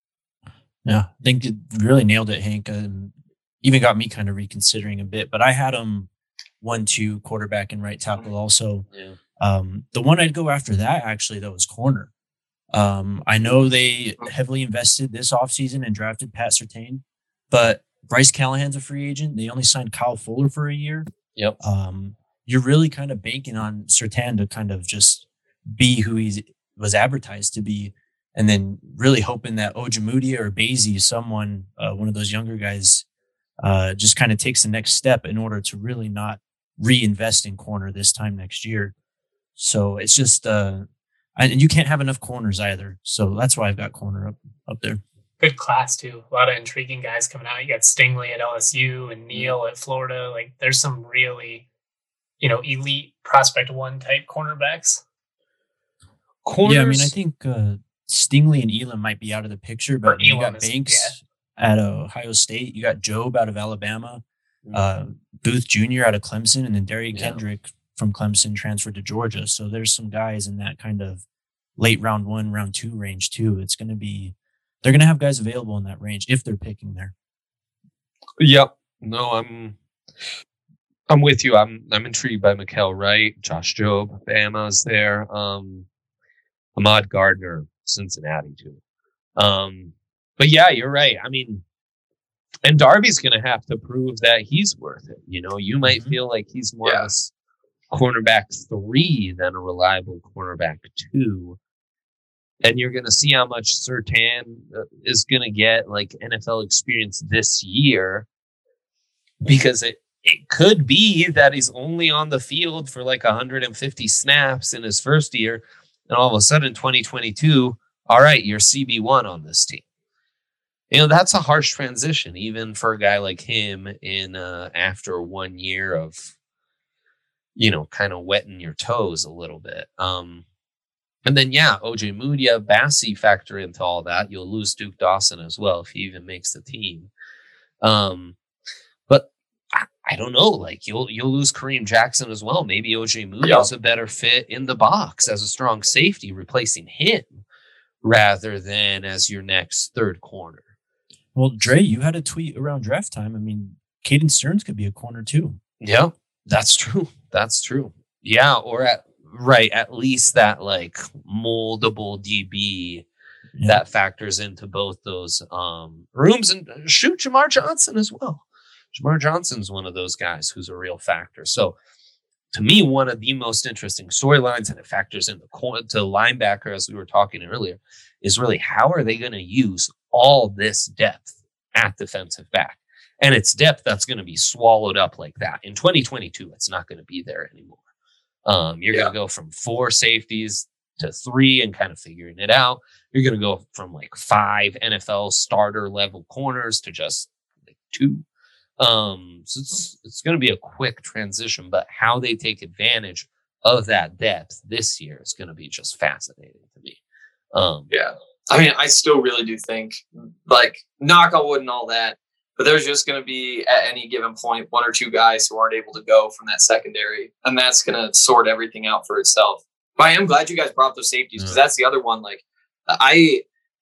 Speaker 4: Yeah, I think it really nailed it, Hank. Um, even got me kind of reconsidering a bit, but I had him one, two quarterback and right tackle also.
Speaker 2: Yeah.
Speaker 4: Um, the one I'd go after that actually, though, was corner. Um, I know they heavily invested this offseason and drafted Pat Surtain, but Bryce Callahan's a free agent. They only signed Kyle Fuller for a year.
Speaker 2: Yep.
Speaker 4: Um, you're really kind of banking on Surtain to kind of just be who he was advertised to be, and then really hoping that Ojemudia or Basie, someone, uh, one of those younger guys, uh, just kind of takes the next step in order to really not reinvest in corner this time next year. So it's just, uh, and you can't have enough corners either. So that's why I've got corner up, up there.
Speaker 3: Good class too. A lot of intriguing guys coming out. You got Stingley at L S U and Neal at Florida. Like, there's some really, you know, elite prospect one type cornerbacks.
Speaker 2: Corners.
Speaker 4: Yeah, I mean, I think uh, Stingley and Elam might be out of the picture, but you got is, Banks yeah. at Ohio State. You got Jobe out of Alabama, mm-hmm. uh, Booth Junior out of Clemson, and then Derrick yeah. Kendrick from Clemson transferred to Georgia. So there's some guys in that kind of late round one, round two range too. It's going to be, they're going to have guys available in that range if they're picking there.
Speaker 2: Yep. No, I'm, I'm with you. I'm, I'm intrigued by Mikael Wright, Josh Jobe, Bama's there. Um, Ahmad Gardner, Cincinnati too. Um, but yeah, you're right. I mean, and Darby's going to have to prove that he's worth it. You know, you might
Speaker 4: Mhm.
Speaker 2: feel like he's more
Speaker 1: Yeah.
Speaker 2: of a s- cornerback three than a reliable cornerback two. And you're going to see how much Surtain uh, is going to get like N F L experience this year, because it, it could be that he's only on the field for like one hundred fifty snaps in his first year. And all of a sudden, twenty twenty-two, all right, you're C B one on this team. You know, that's a harsh transition, even for a guy like him in uh, after one year of, you know, kind of wetting your toes a little bit. Um, and then, yeah, O J Mudia, Bassi factor into all that. You'll lose Duke Dawson as well if he even makes the team. Um, but I, I don't know. Like, you'll you'll lose Kareem Jackson as well. Maybe O J Mudia
Speaker 1: Yeah.
Speaker 2: is a better fit in the box as a strong safety, replacing him rather than as your next third corner.
Speaker 4: Well, Dre, you had a tweet around draft time. I mean, Caden Stearns could be a corner too.
Speaker 2: Yeah, that's true. That's true. Yeah, or at right, at least that like moldable D B
Speaker 4: Yeah.
Speaker 2: that factors into both those um rooms, and shoot Jamar Johnson as well. Jamar Johnson's one of those guys who's a real factor. So to me, one of the most interesting storylines, and it factors in the cor- to linebacker, as we were talking earlier, is really how are they going to use all this depth at defensive back? And it's depth that's going to be swallowed up like that. In twenty twenty-two, it's not going to be there anymore. Um, you're
Speaker 1: Yeah.
Speaker 2: going to go from four safeties to three and kind of figuring it out. You're going to go from like five N F L starter level corners to just like two. Um, so it's it's going to be a quick transition, but how they take advantage of that depth this year is going to be just fascinating to me. Um,
Speaker 1: Yeah. I mean, I still really do think, like, knock on wood and all that, but there's just going to be, at any given point, one or two guys who aren't able to go from that secondary, and that's going to sort everything out for itself. But I am glad you guys brought up those safeties, because
Speaker 2: Yeah.
Speaker 1: that's the other one. Like, I,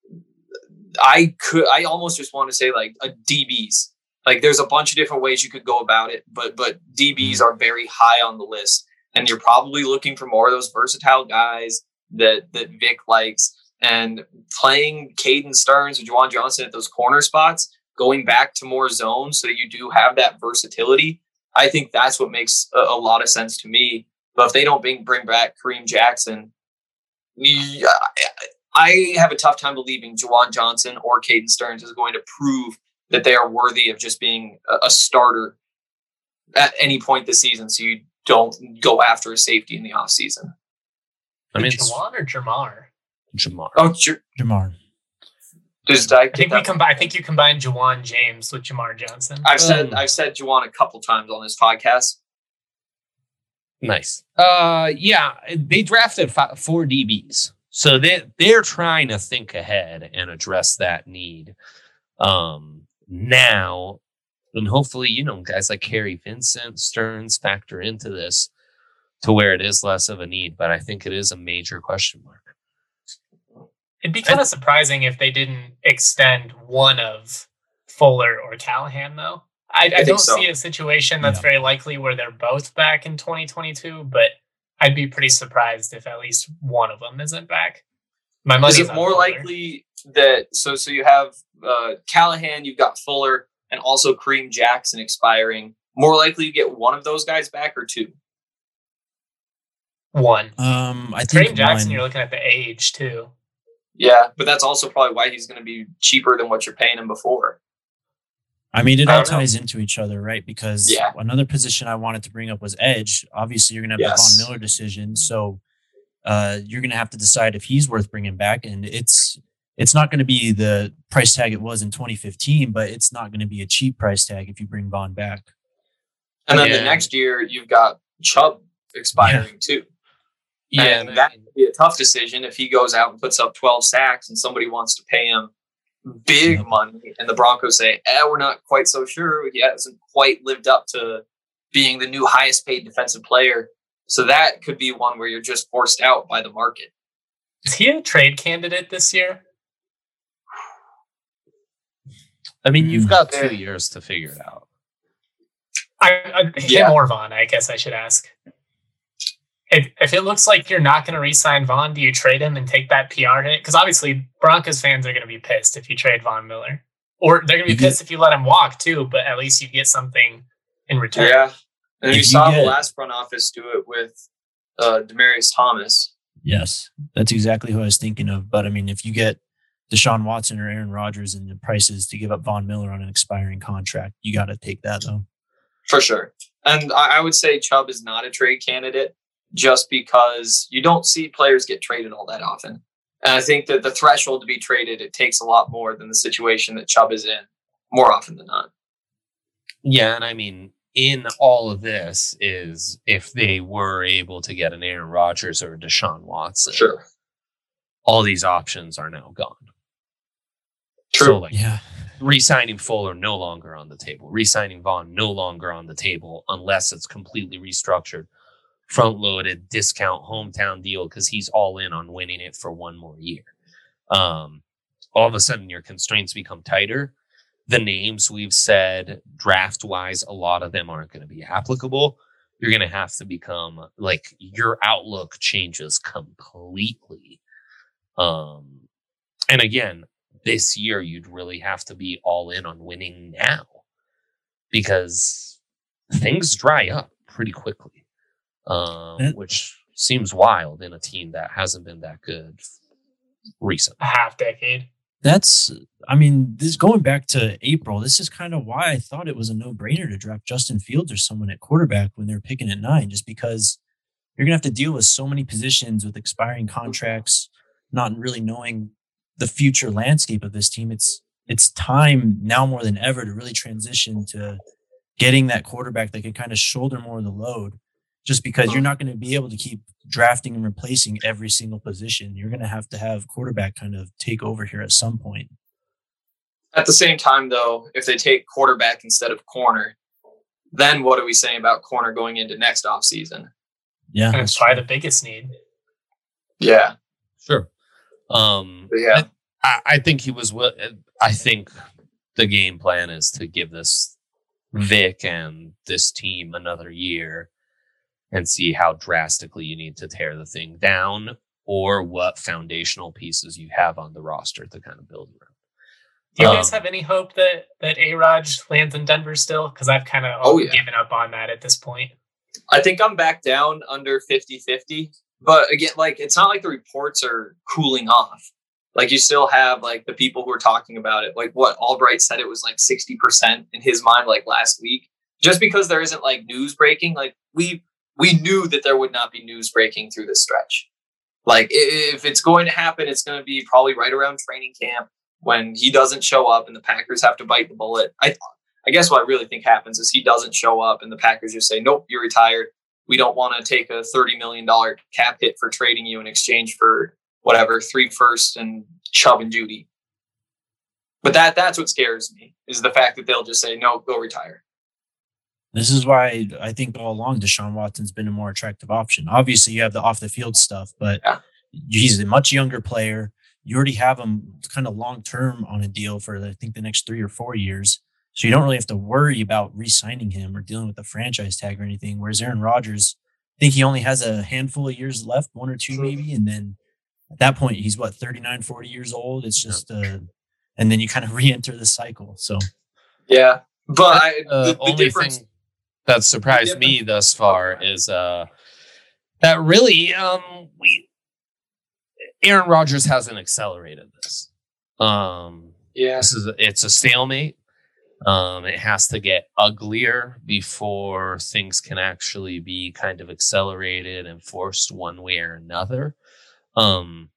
Speaker 1: I could, I almost just want to say, like, a D Bs. Like, there's a bunch of different ways you could go about it, but but D Bs are very high on the list, and you're probably looking for more of those versatile guys that that Vic likes. And playing Caden Stearns or Juwan Johnson at those corner spots, going back to more zones so that you do have that versatility, I think that's what makes a, a lot of sense to me. But if they don't bring, bring back Kareem Jackson, yeah, I have a tough time believing Juwan Johnson or Caden Stearns is going to prove that they are worthy of just being a, a starter at any point this season, so you don't go after a safety in the offseason.
Speaker 2: I mean, it's
Speaker 3: Jawan or Jamar?
Speaker 2: Jamar.
Speaker 1: Oh, sure.
Speaker 4: Jamar.
Speaker 1: Just, I,
Speaker 3: I think we combine. I think you combined Jawan James with Jamar Johnson.
Speaker 1: I've said
Speaker 2: Um,
Speaker 1: I've said Juwan a couple times on this podcast.
Speaker 2: Nice. Uh, yeah, they drafted five, four D Bs, so they they're trying to think ahead and address that need um, now, and hopefully, you know, guys like Kerry Vincent, Stearns factor into this to where it is less of a need. But I think it is a major question mark.
Speaker 3: It'd be kind of surprising if they didn't extend one of Fuller or Callahan, though. I, I,
Speaker 1: think
Speaker 3: don't
Speaker 1: so.
Speaker 3: see a situation that's
Speaker 4: Yeah.
Speaker 3: very likely where they're both back in twenty twenty-two, but I'd be pretty surprised if at least one of them isn't back. My money's
Speaker 1: Is it
Speaker 3: on
Speaker 1: more
Speaker 3: Fuller.
Speaker 1: likely that so so you have uh, Callahan, you've got Fuller, and also Kareem Jackson expiring? More likely you get one of those guys back or two?
Speaker 3: One.
Speaker 4: Um, I think
Speaker 3: Kareem Jackson,
Speaker 4: one-
Speaker 3: you're looking at the age too.
Speaker 1: Yeah, but that's also probably why he's going to be cheaper than what you're paying him before.
Speaker 4: I mean, it
Speaker 1: I
Speaker 4: all
Speaker 1: don't know.
Speaker 4: ties into each other, right? Because
Speaker 1: Yeah.
Speaker 4: another position I wanted to bring up was edge. Obviously, you're going to have
Speaker 1: Yes.
Speaker 4: the Von Miller decision, so uh, you're going to have to decide if he's worth bringing back. And it's it's not going to be the price tag it was in twenty fifteen, but it's not going to be a cheap price tag if you bring Von back.
Speaker 1: And then
Speaker 2: Yeah.
Speaker 1: the next year you've got Chubb expiring too. And that could be a tough decision if he goes out and puts up twelve sacks and somebody wants to pay him big
Speaker 4: Yep.
Speaker 1: money, and the Broncos say, eh, we're not quite so sure. He hasn't quite lived up to being the new highest paid defensive player. So that could be one where you're just forced out by the market.
Speaker 3: Is he a trade candidate this year?
Speaker 2: I mean, you've got
Speaker 1: Yeah.
Speaker 2: two years to figure it out.
Speaker 3: I, I, him
Speaker 1: Yeah.
Speaker 3: or Vaughn, I guess I should ask. if, if it looks like you're not going to re-sign Vaughn, do you trade him and take that P R hit? Because obviously Broncos fans are going to be pissed if you trade Von Miller. Or they're going to be pissed if you let him walk too, but at least you get something in return.
Speaker 1: Yeah. And
Speaker 4: If
Speaker 1: you
Speaker 4: you
Speaker 1: saw
Speaker 4: get-
Speaker 1: the last front office do it with uh, Demaryius Thomas.
Speaker 4: Yes, that's exactly who I was thinking of. But I mean, if you get Deshaun Watson or Aaron Rodgers and the prices to give up Von Miller on an expiring contract, you got to take that though.
Speaker 1: For sure. And I, I would say Chubb is not a trade candidate just because you don't see players get traded all that often. And I think that the threshold to be traded, it takes a lot more than the situation that Chubb is in more often than not.
Speaker 2: Yeah, and I mean, in all of this is if they were able to get an Aaron Rodgers or a Deshaun Watson,
Speaker 1: Sure.
Speaker 2: all these options are now gone.
Speaker 1: True.
Speaker 2: So like
Speaker 4: Yeah,
Speaker 2: re-signing Fuller no longer on the table. Re-signing Vaughn no longer on the table unless it's completely restructured, front-loaded, discount, hometown deal because he's all in on winning it for one more year. Um, all of a sudden, your constraints become tighter. The names we've said draft-wise, a lot of them aren't going to be applicable. You're going to have to become like your outlook changes completely. Um, and again, this year you'd really have to be all in on winning now because things dry up pretty quickly, um,
Speaker 4: That-
Speaker 2: which seems wild in a team that hasn't been that good recently.
Speaker 3: A half decade.
Speaker 4: that's. I mean, this going back to April. This is kind of why I thought it was a no-brainer to draft Justin Fields or someone at quarterback when they're picking at nine, just because you're gonna have to deal with so many positions with expiring contracts, not really knowing the future landscape of this team. It's it's time now more than ever to really transition to getting that quarterback that can kind of shoulder more of the load, just because you're not going to be able to keep drafting and replacing every single position. You're going to have to have quarterback kind of take over here at some point.
Speaker 1: At the same time, though, if they take quarterback instead of corner, then what are we saying about corner going into next offseason?
Speaker 4: Yeah.
Speaker 3: And it's probably the biggest need.
Speaker 1: Yeah.
Speaker 2: Sure. Um,
Speaker 1: But yeah.
Speaker 2: I, I think he was. wi- I think the game plan is to give this Vic and this team another year and see how drastically you need to tear the thing down or what foundational pieces you have on the roster to kind of build around.
Speaker 3: Do you guys
Speaker 2: Um,
Speaker 3: have any hope that that A-Raj lands in Denver still? Because I've kind of
Speaker 1: Oh, yeah.
Speaker 3: given up on that at this point.
Speaker 1: I think I'm back down under fifty-fifty. But again, like, it's not like the reports are cooling off. Like, you still have, like, the people who are talking about it. Like, what Albright said it was, like, sixty percent in his mind, like, last week. Just because there isn't, like, news breaking, like, we we knew that there would not be news breaking through this stretch. Like, i- if it's going to happen, it's going to be probably right around training camp when he doesn't show up and the Packers have to bite the bullet. I I guess what I really think happens is he doesn't show up and the Packers just say, nope, you're retired. We don't want to take a thirty million dollars cap hit for trading you in exchange for whatever, three firsts and Chubb and Judy. But that that's what scares me, is the fact that they'll just say, no, go retire.
Speaker 4: This is why I think all along Deshaun Watson's been a more attractive option. Obviously, you have the off the field stuff, but
Speaker 1: Yeah.
Speaker 4: he's a much younger player. You already have him kind of long term on a deal for, I think, the next three or four years. So you don't really have to worry about re-signing him or dealing with the franchise tag or anything. Whereas Aaron Rodgers, I think he only has a handful of years left, one or two maybe. And then at that point, he's what, thirty-nine, forty years old. It's just, uh, and then you kind of re-enter the cycle. So
Speaker 1: Yeah. But I,
Speaker 2: Uh,
Speaker 1: the, the
Speaker 2: only
Speaker 1: difference.
Speaker 2: thing that surprised me thus far is uh, that really um, we Aaron Rodgers hasn't accelerated this. Um,
Speaker 1: Yeah.
Speaker 2: this is a, it's a stalemate. Um, it has to get uglier before things can actually be kind of accelerated and forced one way or another. Um,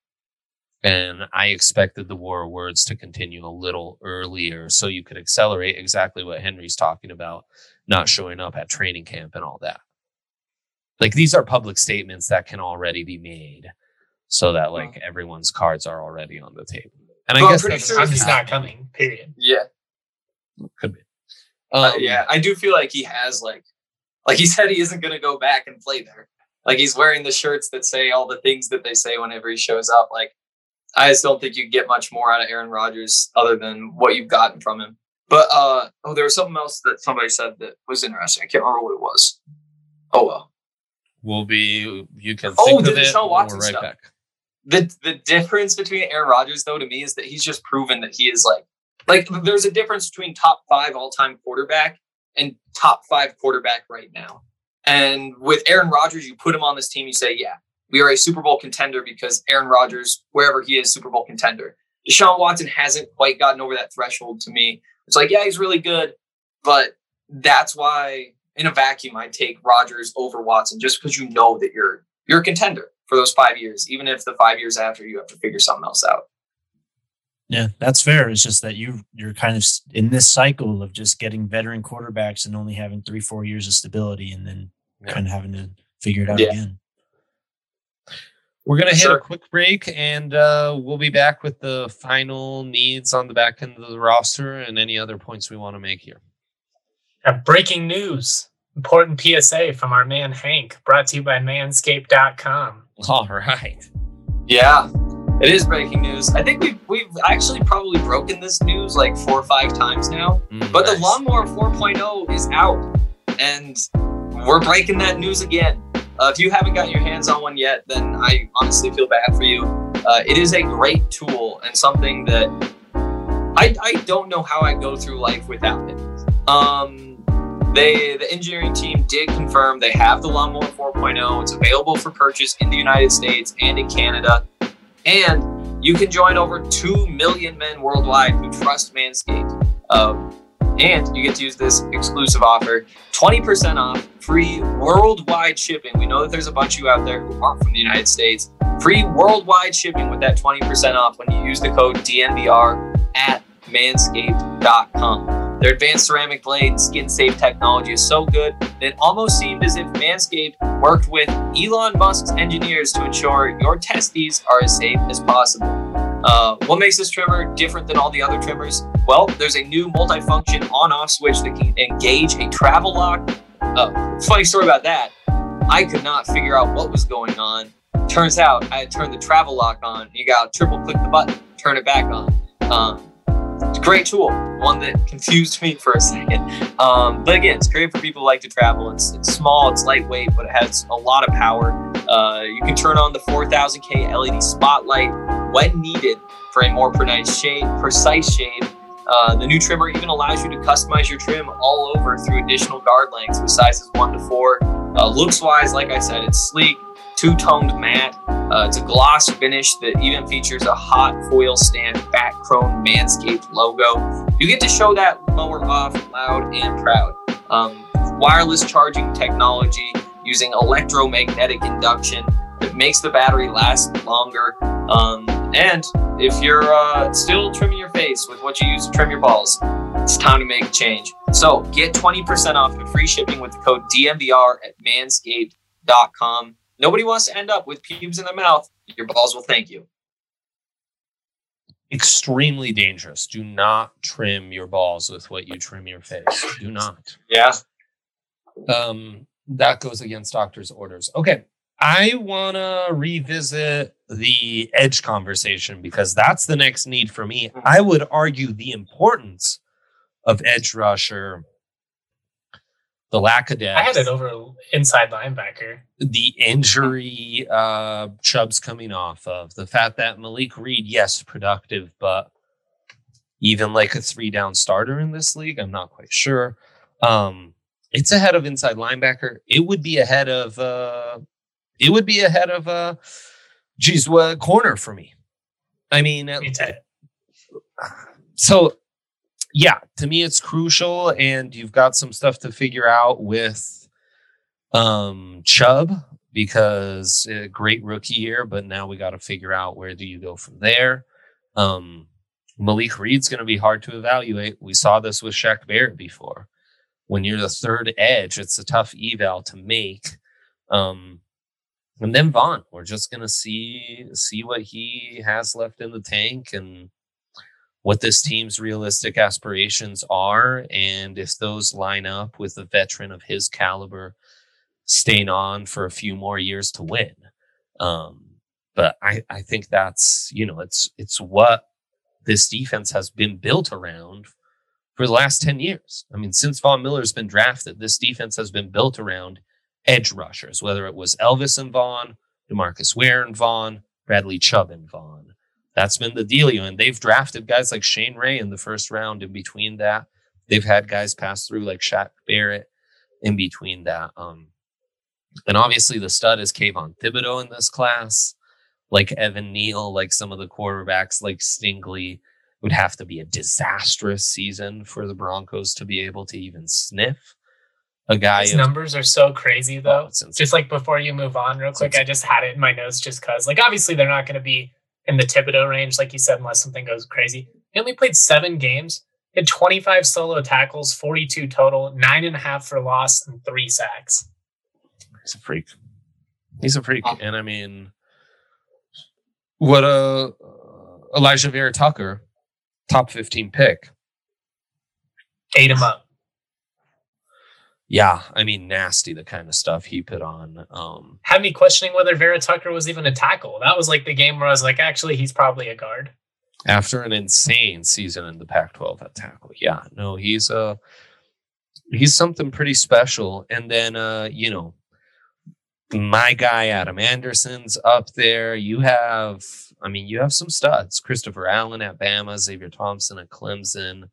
Speaker 2: and I expected the war of words to continue a little earlier so you could accelerate exactly what Henry's talking about, not showing up at training camp and all that. Like, these are public statements that can already be made so that like everyone's cards are already on the table. And I
Speaker 1: Well, I'm
Speaker 2: guess
Speaker 1: pretty
Speaker 2: that's
Speaker 1: sure
Speaker 3: I'm just not
Speaker 2: happening.
Speaker 3: coming, period.
Speaker 1: Yeah.
Speaker 2: Could be.
Speaker 1: Uh,
Speaker 2: Um,
Speaker 1: yeah. I do feel like he has, like, like he said, he isn't going to go back and play there. Like, he's wearing the shirts that say all the things that they say whenever he shows up. Like, I just don't think you get much more out of Aaron Rodgers other than what you've gotten from him. But, uh, oh, there was something else that somebody said that was interesting. I can't remember what it was. Oh, well.
Speaker 2: We'll be. You can
Speaker 1: Oh,
Speaker 2: think
Speaker 1: the
Speaker 2: of it.
Speaker 1: Deshaun
Speaker 2: and
Speaker 1: Watson
Speaker 2: we're right
Speaker 1: stuff.
Speaker 2: back.
Speaker 1: The the difference between Aaron Rodgers, though, to me, is that he's just proven that he is like like there's a difference between top five all time quarterback and top five quarterback right now. And with Aaron Rodgers, you put him on this team, you say, yeah, we are a Super Bowl contender because Aaron Rodgers, wherever he is, Super Bowl contender. Deshaun Watson hasn't quite gotten over that threshold to me. It's like, yeah, he's really good, but that's why in a vacuum I take Rodgers over Watson, just because you know that you're you're a contender for those five years, even if the five years after you have to figure something else out.
Speaker 4: Yeah, that's fair. It's just that you you're kind of in this cycle of just getting veteran quarterbacks and only having three, four years of stability, and then yeah. kind of having to figure it out yeah. again.
Speaker 2: We're going to hit
Speaker 1: sure.
Speaker 2: a quick break, and uh, we'll be back with the final needs on the back end of the roster and any other points we want to make here.
Speaker 3: Uh, breaking news. Important P S A from our man Hank, brought to you by manscaped dot com.
Speaker 2: All right.
Speaker 1: Yeah, it is breaking news. I think we've, we've actually probably broken this news like four or five times now.
Speaker 2: Mm,
Speaker 1: but
Speaker 2: nice.
Speaker 1: the Lawnmower four point oh is out, and we're breaking that news again. Uh, if you haven't gotten your hands on one yet, then I honestly feel bad for you. Uh, it is a great tool and something that I, I don't know how I go through life without it. Um, they the engineering team did confirm they have the Lawnmower four point oh. It's available for purchase in the United States and in Canada. And you can join over two million men worldwide who trust Manscaped. Um, and you get to use this exclusive offer, twenty percent off, free worldwide shipping. We know that there's a bunch of you out there who aren't from the United States. Free worldwide shipping with that twenty percent off when you use the code D N V R at manscaped dot com. Their advanced ceramic blade and skin-safe technology is so good that it almost seemed as if Manscaped worked with Elon Musk's engineers to ensure your testes are as safe as possible. Uh, what makes this trimmer different than all the other trimmers? Well, there's a new multifunction on-off switch that can engage a travel lock. Uh, funny story about that. I could not figure out what was going on. Turns out I had turned the travel lock on. You got to triple click the button, turn it back on. Um, it's a great tool, one that confused me for a second. Um, but again, it's great for people who like to travel. It's, it's small, it's lightweight, but it has a lot of power. Uh, you can turn on the four thousand K L E D spotlight when needed for a more precise shade. Precise shade. Uh, the new trimmer even allows you to customize your trim all over through additional guard lengths with sizes one to four. Uh, looks-wise, like I said, it's sleek, two-toned matte. Uh, it's a gloss finish that even features a hot foil stamped back chrome Manscaped logo. You get to show that mower off loud and proud. Um, wireless charging technology using electromagnetic induction that makes the battery last longer. Um, and if you're uh, still trimming your face with what you use to trim your balls, it's time to make a change. So get twenty percent off and free shipping with the code D N V R at manscaped dot com. Nobody wants to end up with pubes in their mouth. Your balls will thank you.
Speaker 2: Extremely dangerous. Do not trim your balls with what you trim your face. Do not.
Speaker 1: Yeah.
Speaker 2: Um, that goes against doctor's orders. Okay. I want to revisit the edge conversation because that's the next need for me. I would argue the importance of edge rusher, the lack of depth.
Speaker 3: I had it over inside linebacker.
Speaker 2: The injury uh, Chubb's coming off of. The fact that Malik Reed, yes, productive, but even like a three-down starter in this league, I'm not quite sure. Um, it's ahead of inside linebacker. It would be ahead of... Uh, It would be ahead of, uh, geez, what corner for me. I mean,
Speaker 3: Me too.
Speaker 2: So, yeah, to me it's crucial, and you've got some stuff to figure out with um, Chubb because a great rookie year, but now we got to figure out where do you go from there. Um, Malik Reed's going to be hard to evaluate. We saw this with Shaq Barrett before. When you're the third edge, it's a tough eval to make. Um, And then Vaughn, we're just gonna see see what he has left in the tank and what this team's realistic aspirations are, and if those line up with a veteran of his caliber staying on for a few more years to win. Um, but I, I think that's you know it's it's what this defense has been built around for the last ten years. I mean, since Von Miller's been drafted, this defense has been built around edge rushers, whether it was Elvis and Vaughn, DeMarcus Ware and Vaughn, Bradley Chubb and Vaughn. That's been the dealio. And they've drafted guys like Shane Ray in the first round. In between that, they've had guys pass through like Shaq Barrett in between that. Um, and obviously the stud is Kayvon Thibodeau in this class, like Evan Neal, like some of the quarterbacks like Stingley. Would have to be a disastrous season for the Broncos to be able to even sniff a guy.
Speaker 3: His
Speaker 2: of,
Speaker 3: numbers are so crazy, though.
Speaker 2: Oh,
Speaker 3: just like before you move on, real quick, I just had it in my notes just because, like, obviously they're not going to be in the Thibodeau range, like you said, unless something goes crazy. He only played seven games, had twenty-five solo tackles, forty-two total, nine and a half for loss, and three sacks.
Speaker 2: He's a freak. He's a freak, and I mean, what a uh, Elijah Vera Tucker. Top fifteen pick.
Speaker 3: Ate him up.
Speaker 2: Yeah, I mean, nasty, the kind of stuff he put on. Um,
Speaker 3: Had me questioning whether Vera Tucker was even a tackle. That was like the game where I was like, actually, he's probably a guard.
Speaker 2: After an insane season in the Pac twelve at tackle. Yeah, no, he's uh, he's something pretty special. And then, uh, you know, my guy Adam Anderson's up there. You have... I mean, you have some studs. Christopher Allen at Bama, Xavier Thompson at Clemson.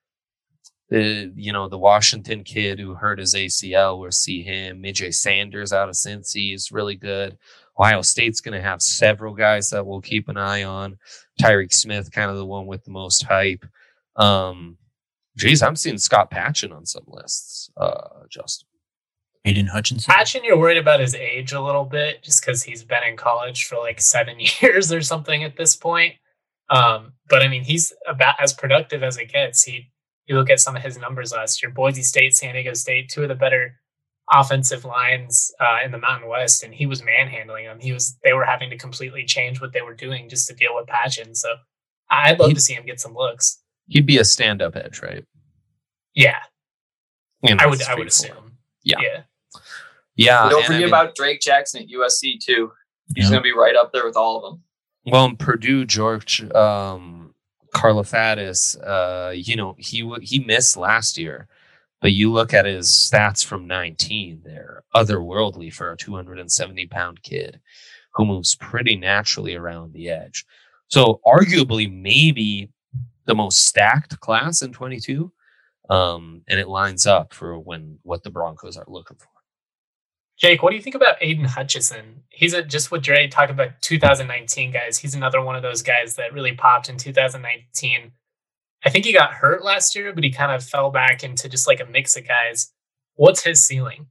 Speaker 2: The, you know, the Washington kid who hurt his A C L, we'll see him. Midjay Sanders out of Cincy is really good. Ohio State's going to have several guys that we'll keep an eye on. Tyreek Smith, kind of the one with the most hype. Um, geez, I'm seeing Scott Patchin on some lists, uh, Justin.
Speaker 4: Aiden Hutchinson.
Speaker 3: Patchin, you're worried about his age a little bit, just because he's been in college for like seven years or something at this point. Um, but I mean, he's about as productive as it gets. He, you look at some of his numbers last year: Boise State, San Diego State, two of the better offensive lines uh, in the Mountain West, and he was manhandling them. He was, they were having to completely change what they were doing just to deal with Patchin. So I'd love
Speaker 2: he'd,
Speaker 3: to see him get some looks.
Speaker 2: He'd be a stand-up edge, right?
Speaker 3: Yeah,
Speaker 2: And
Speaker 3: I would. I would assume.
Speaker 2: Yeah.
Speaker 3: Yeah.
Speaker 2: Yeah.
Speaker 1: Don't
Speaker 2: and
Speaker 1: forget
Speaker 2: I mean,
Speaker 1: about Drake Jackson at U S C too. He's
Speaker 4: Yeah.
Speaker 1: going to be right up there with all of them.
Speaker 2: Well, in Purdue, George um, Karlaftis, uh, you know, he w- he missed last year, but you look at his stats from nineteen, they're otherworldly for a two hundred seventy pound kid who moves pretty naturally around the edge. So arguably maybe the most stacked class in twenty-two, um, and it lines up for when what the Broncos are looking for.
Speaker 3: Jake, what do you think about Aiden Hutchinson? He's a, just what Dre talked about two thousand nineteen guys. He's another one of those guys that really popped in two thousand nineteen. I think he got hurt last year, but he kind of fell back into just like a mix of guys. What's his ceiling?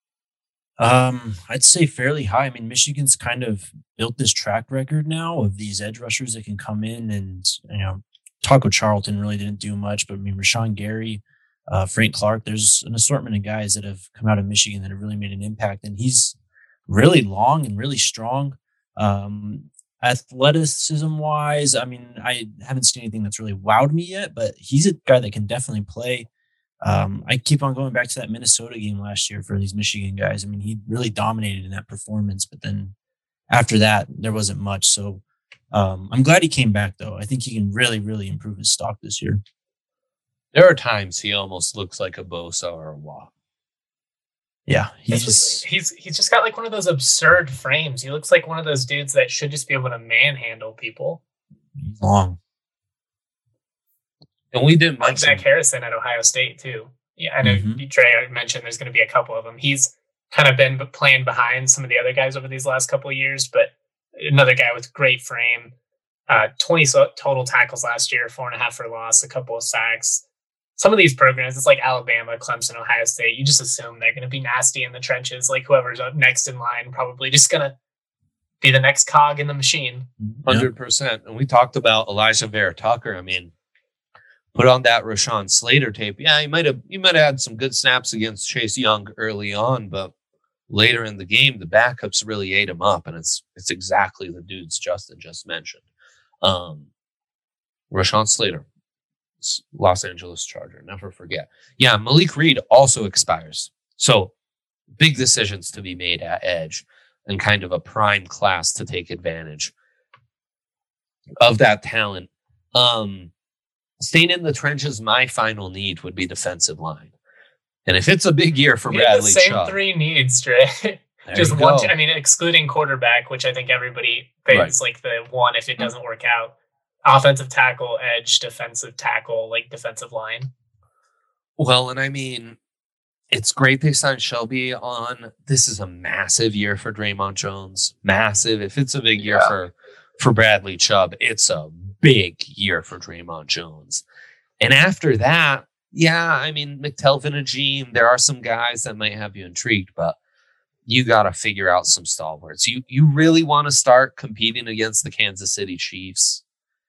Speaker 4: Um, I'd say fairly high. I mean, Michigan's kind of built this track record now of these edge rushers that can come in and, you know, Taco Charlton really didn't do much, but I mean, Rashawn Gary, uh, Frank Clark, there's an assortment of guys that have come out of Michigan that have really made an impact. And he's really long and really strong. Um, athleticism wise, I mean, I haven't seen anything that's really wowed me yet, but he's a guy that can definitely play. Um, I keep on going back to that Minnesota game last year for these Michigan guys. I mean, he really dominated in that performance, but then after that, there wasn't much. So um, I'm glad he came back, though. I think he can really, really improve his stock this year.
Speaker 2: There are times he almost looks like a Bosa or a Watt.
Speaker 4: Yeah,
Speaker 3: He's
Speaker 4: he's
Speaker 3: just, he's he's just got like one of those absurd frames. He looks like one of those dudes that should just be able to manhandle people.
Speaker 4: long.
Speaker 2: And we didn't
Speaker 3: Like
Speaker 2: mention
Speaker 3: Zach Harrison at Ohio State too. Yeah, I know
Speaker 4: Mhm.
Speaker 3: Trey mentioned there's going to be a couple of them. He's kind of been playing behind some of the other guys over these last couple of years, but another guy with great frame. Uh, twenty so- total tackles last year, four and a half for loss, a couple of sacks. Some of these programs, it's like Alabama, Clemson, Ohio State. You just assume they're going to be nasty in the trenches. Like whoever's up next in line, probably just going to be the next cog in the machine.
Speaker 2: one hundred percent. And we talked about Elijah Vera Tucker. I mean, put on that Rashawn Slater tape. Yeah, he might have he might have had some good snaps against Chase Young early on, but later in the game, the backups really ate him up, and it's it's exactly the dudes Justin just mentioned. Um, Rashawn Slater, Los Angeles Charger, never forget. Yeah, Malik Reed also expires. So big decisions to be made at edge and kind of a prime class to take advantage of that talent. Um, staying in the trenches, my final need would be defensive line. And if it's a big year for
Speaker 3: we have
Speaker 2: Bradley
Speaker 3: the same
Speaker 2: Chubb,
Speaker 3: three needs, Dre.
Speaker 2: there
Speaker 3: Just
Speaker 2: you
Speaker 3: one.
Speaker 2: go.
Speaker 3: I mean, excluding quarterback, which I think everybody thinks like the one if it doesn't work out. Offensive tackle, edge, defensive tackle, like defensive line.
Speaker 2: Well, and I mean, it's great they signed Shelby on. This is a massive year for Draymond Jones. Massive. If it's a big year
Speaker 1: Yeah.
Speaker 2: for for Bradley Chubb, it's a big year for Draymond Jones. And after that, yeah, I mean, McTelvin and Gene, there are some guys that might have you intrigued, but you got to figure out some stalwarts. You you really want to start competing against the Kansas City Chiefs?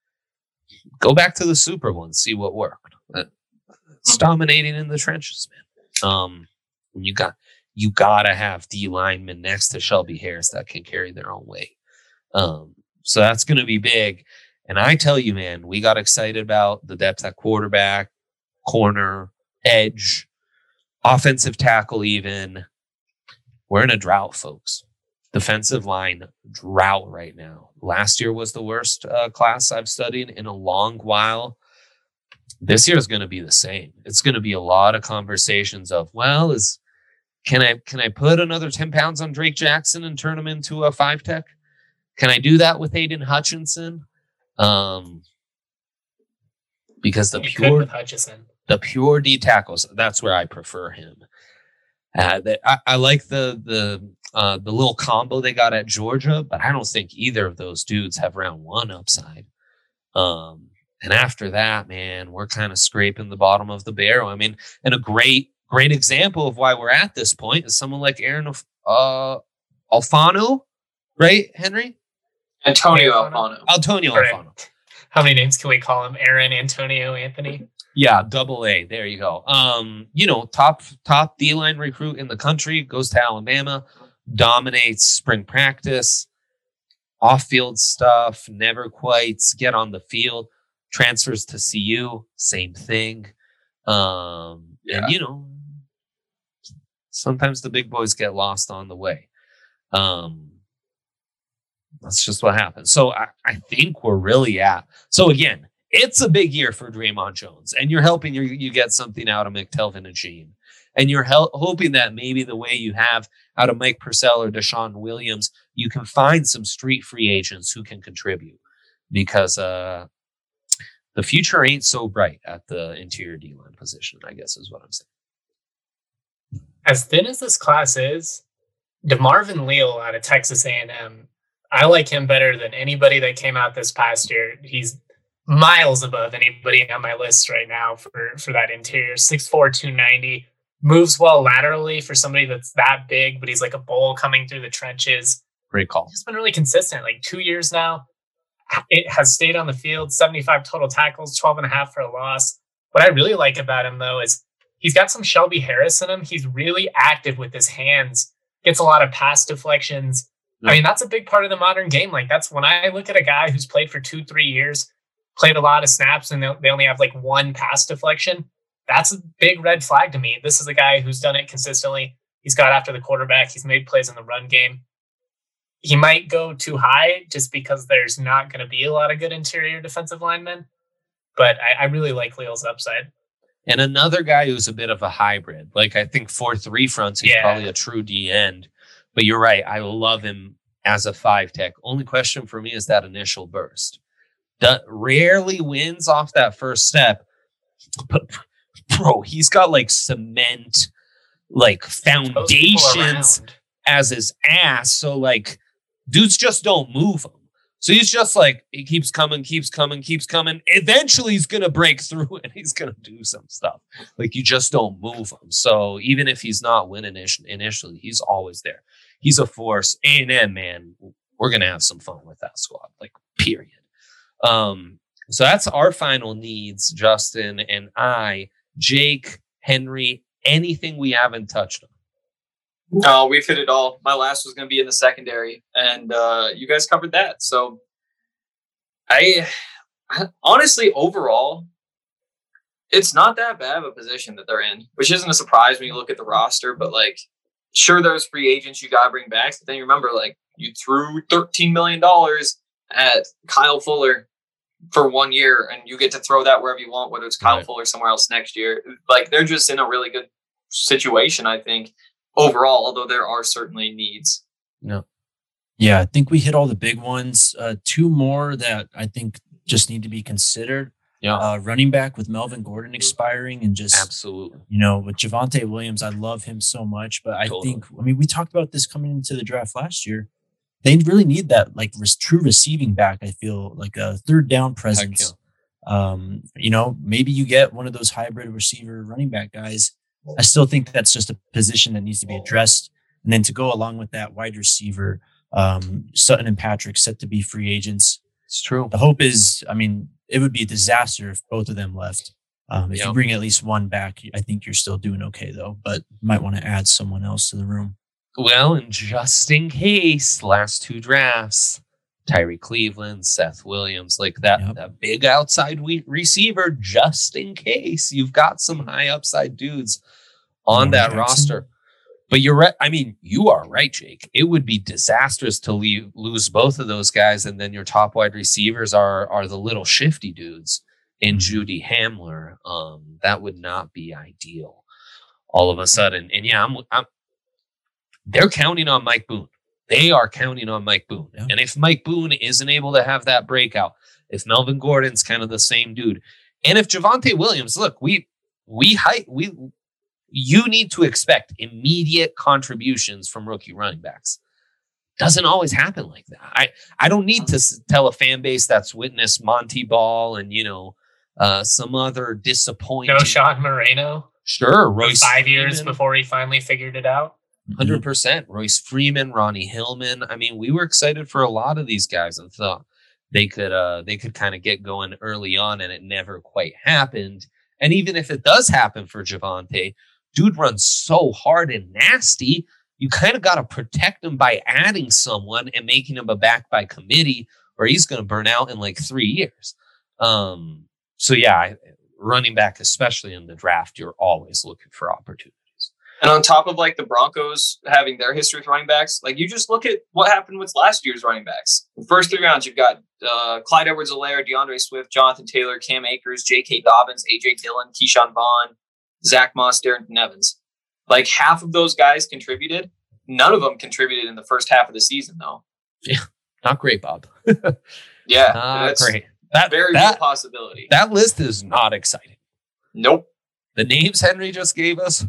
Speaker 2: Go back to the Super Bowl and see what worked. It's dominating in the trenches, man. Um, you got you gotta have D linemen next to Shelby Harris that can carry their own weight. Um, so that's going to be big. And I tell you, man, we got excited about the depth at quarterback, corner, edge, offensive tackle. Even we're in a drought, folks. Defensive line drought right now. Last year was the worst uh, class I've studied in a long while. This year is going to be the same. It's going to be a lot of conversations of, well, is can I can I put another ten pounds on Drake Jackson and turn him into a five tech? Can I do that with Aiden Hutchinson? Um, because the
Speaker 3: You could
Speaker 2: pure
Speaker 3: with Hutchison.
Speaker 2: the pure D tackles, that's where I prefer him. Uh, that I, I like the the uh, the little combo they got at Georgia, but I don't think either of those dudes have round one upside. Um, and after that, man, we're kind of scraping the bottom of the barrel. I mean, and a great great example of why we're at this point is someone like Aaron uh, Alfano, right, Henry?
Speaker 1: Antonio
Speaker 3: Alfano.
Speaker 1: Alfano.
Speaker 2: Antonio
Speaker 3: Correct.
Speaker 2: Alfano.
Speaker 3: How many names can we call him? Aaron, Antonio, Anthony?
Speaker 2: Yeah, double A. There you go. Um, you know, top top D line recruit in the country, goes to Alabama, dominates spring practice, off field stuff, never quite get on the field, transfers to C U, same thing. Um,
Speaker 1: Yeah.
Speaker 2: and you know, sometimes the big boys get lost on the way. Um, that's just what happens. So I, I think we're really at. So again, it's a big year for Draymond Jones, and you're helping you, you get something out of McTelvin and Gene. And you're hel- hoping that maybe the way you have out of Mike Purcell or Deshaun Williams, you can find some street free agents who can contribute, because uh, the future ain't so bright at the interior D-line position, I guess is what I'm saying.
Speaker 3: As thin as this class is, DeMarvin Leal out of Texas A and M, I like him better than anybody that came out this past year. He's miles above anybody on my list right now for, for that interior. six four, two ninety, moves well laterally for somebody that's that big, but he's like a bull coming through the trenches.
Speaker 2: Great call.
Speaker 3: He's been really consistent, like two years now. It has stayed on the field, seventy-five total tackles, twelve and a half for a loss. What I really like about him, though, is he's got some Shelby Harris in him. He's really active with his hands, gets a lot of pass deflections.
Speaker 2: Yeah.
Speaker 3: I mean, that's a big part of the modern game. Like, that's when I look at a guy who's played for two, three years, played a lot of snaps, and they only have like one pass deflection. That's a big red flag to me. This is a guy who's done it consistently. He's got after the quarterback. He's made plays in the run game. He might go too high just because there's not going to be a lot of good interior defensive linemen. But I, I really like Leal's upside.
Speaker 2: And another guy who's a bit of a hybrid. Like, I think four three fronts, he's
Speaker 3: Yeah.
Speaker 2: probably a true D end. But you're right. I love him as a five tech. Only question for me is that initial burst. That rarely wins off that first step. But, bro, he's got like cement, like
Speaker 3: Throws people
Speaker 2: foundations
Speaker 3: around.
Speaker 2: as his ass. So, like, dudes just don't move him. So he's just like, he keeps coming, keeps coming, keeps coming. Eventually he's going to break through and he's going to do some stuff. Like, you just don't move him. So even if he's not winning initially, he's always there. He's a force. A and M, man, we're going to have some fun with that squad, like, period. Um, so that's our final needs, Justin and I. Jake, Henry, anything we haven't touched on?
Speaker 1: No, we've hit it all. My last was going to be in the secondary, and uh, you guys covered that. So, I, I honestly, overall, it's not that bad of a position that they're in, which isn't a surprise when you look at the roster. But, like, sure, there's free agents you got to bring back. But then you remember, like, you threw thirteen million dollars at Kyle Fuller for one year, and you get to throw that wherever you want, whether it's Kyle
Speaker 2: Right.
Speaker 1: Fuller somewhere else next year. Like, they're just in a really good situation, I think, overall, although there are certainly needs.
Speaker 2: No.
Speaker 4: Yeah, I think we hit all the big ones. Uh, two more that I think just need to be considered.
Speaker 2: Yeah.
Speaker 4: Uh, running back with Melvin Gordon expiring, and just
Speaker 2: Absolutely.
Speaker 4: you know, with Javonte Williams, I love him so much, but I
Speaker 2: Totally.
Speaker 4: think, I mean, we talked about this coming into the draft last year. They really need that like res- true receiving back. I feel like a third down presence. Um, you know, maybe you get one of those hybrid receiver running back guys. I still think that's just a position that needs to be addressed. And then to go along with that, wide receiver, um, Sutton and Patrick set to be free agents.
Speaker 2: It's true.
Speaker 4: The hope is, I mean, it would be a disaster if both of them left. Um, if
Speaker 2: Yep.
Speaker 4: you bring at least one back, I think you're still doing okay, though. But you might want to add someone else to the room.
Speaker 2: Well, and just in case, last two drafts, Tyree Cleveland, Seth Williams, like that,
Speaker 4: Yep.
Speaker 2: that big outside we- receiver, just in case you've got some high upside dudes on
Speaker 4: Lamar
Speaker 2: that
Speaker 4: Jackson.
Speaker 2: roster. But you're right. I mean, you are right, Jake. It would be disastrous to leave, lose both of those guys, and then your top wide receivers are are the little shifty dudes in Judy Hamler. Um, that would not be ideal. All of a sudden, and yeah, I'm, I'm they're counting on Mike Boone. They are counting on Mike Boone.
Speaker 4: Yeah.
Speaker 2: And if Mike Boone isn't able to have that breakout, if Melvin Gordon's kind of the same dude, and if Javonte Williams, look, we we height we you need to expect immediate contributions from rookie running backs. Doesn't always happen like that. I, I don't need to s- tell a fan base that's witnessed Monty Ball and, you know, uh, some other disappointing.
Speaker 3: No Sean Moreno.
Speaker 2: Sure.
Speaker 3: for
Speaker 2: Royce
Speaker 3: Five years
Speaker 2: Freeman.
Speaker 3: before he finally figured it out.
Speaker 2: one hundred percent. Royce Freeman, Ronnie Hillman. I mean, we were excited for a lot of these guys and thought they could uh, they could kind of get going early on, and it never quite happened. And even if it does happen for Javonte, dude runs so hard and nasty, you kind of got to protect him by adding someone and making him a back by committee, or he's going to burn out in like three years. Um, so yeah, I, running back, especially in the draft, you're always looking for opportunities.
Speaker 1: And on top of like the Broncos having their history with running backs, like you just look at what happened with last year's running backs. The first three rounds, you've got uh, Clyde Edwards-Helaire, DeAndre Swift, Jonathan Taylor, Cam Akers, J K. Dobbins, A J Dillon, Keyshawn Vaughn, Zach Moss, Darrington Evans. Like half of those guys contributed. None of them contributed in the first half of the season, though.
Speaker 2: Yeah, not great, Bob.
Speaker 1: Yeah,
Speaker 2: Not
Speaker 1: that's
Speaker 2: great. That
Speaker 1: very
Speaker 2: that,
Speaker 1: real possibility.
Speaker 2: that list is not exciting.
Speaker 1: Nope.
Speaker 2: The names Henry just gave us,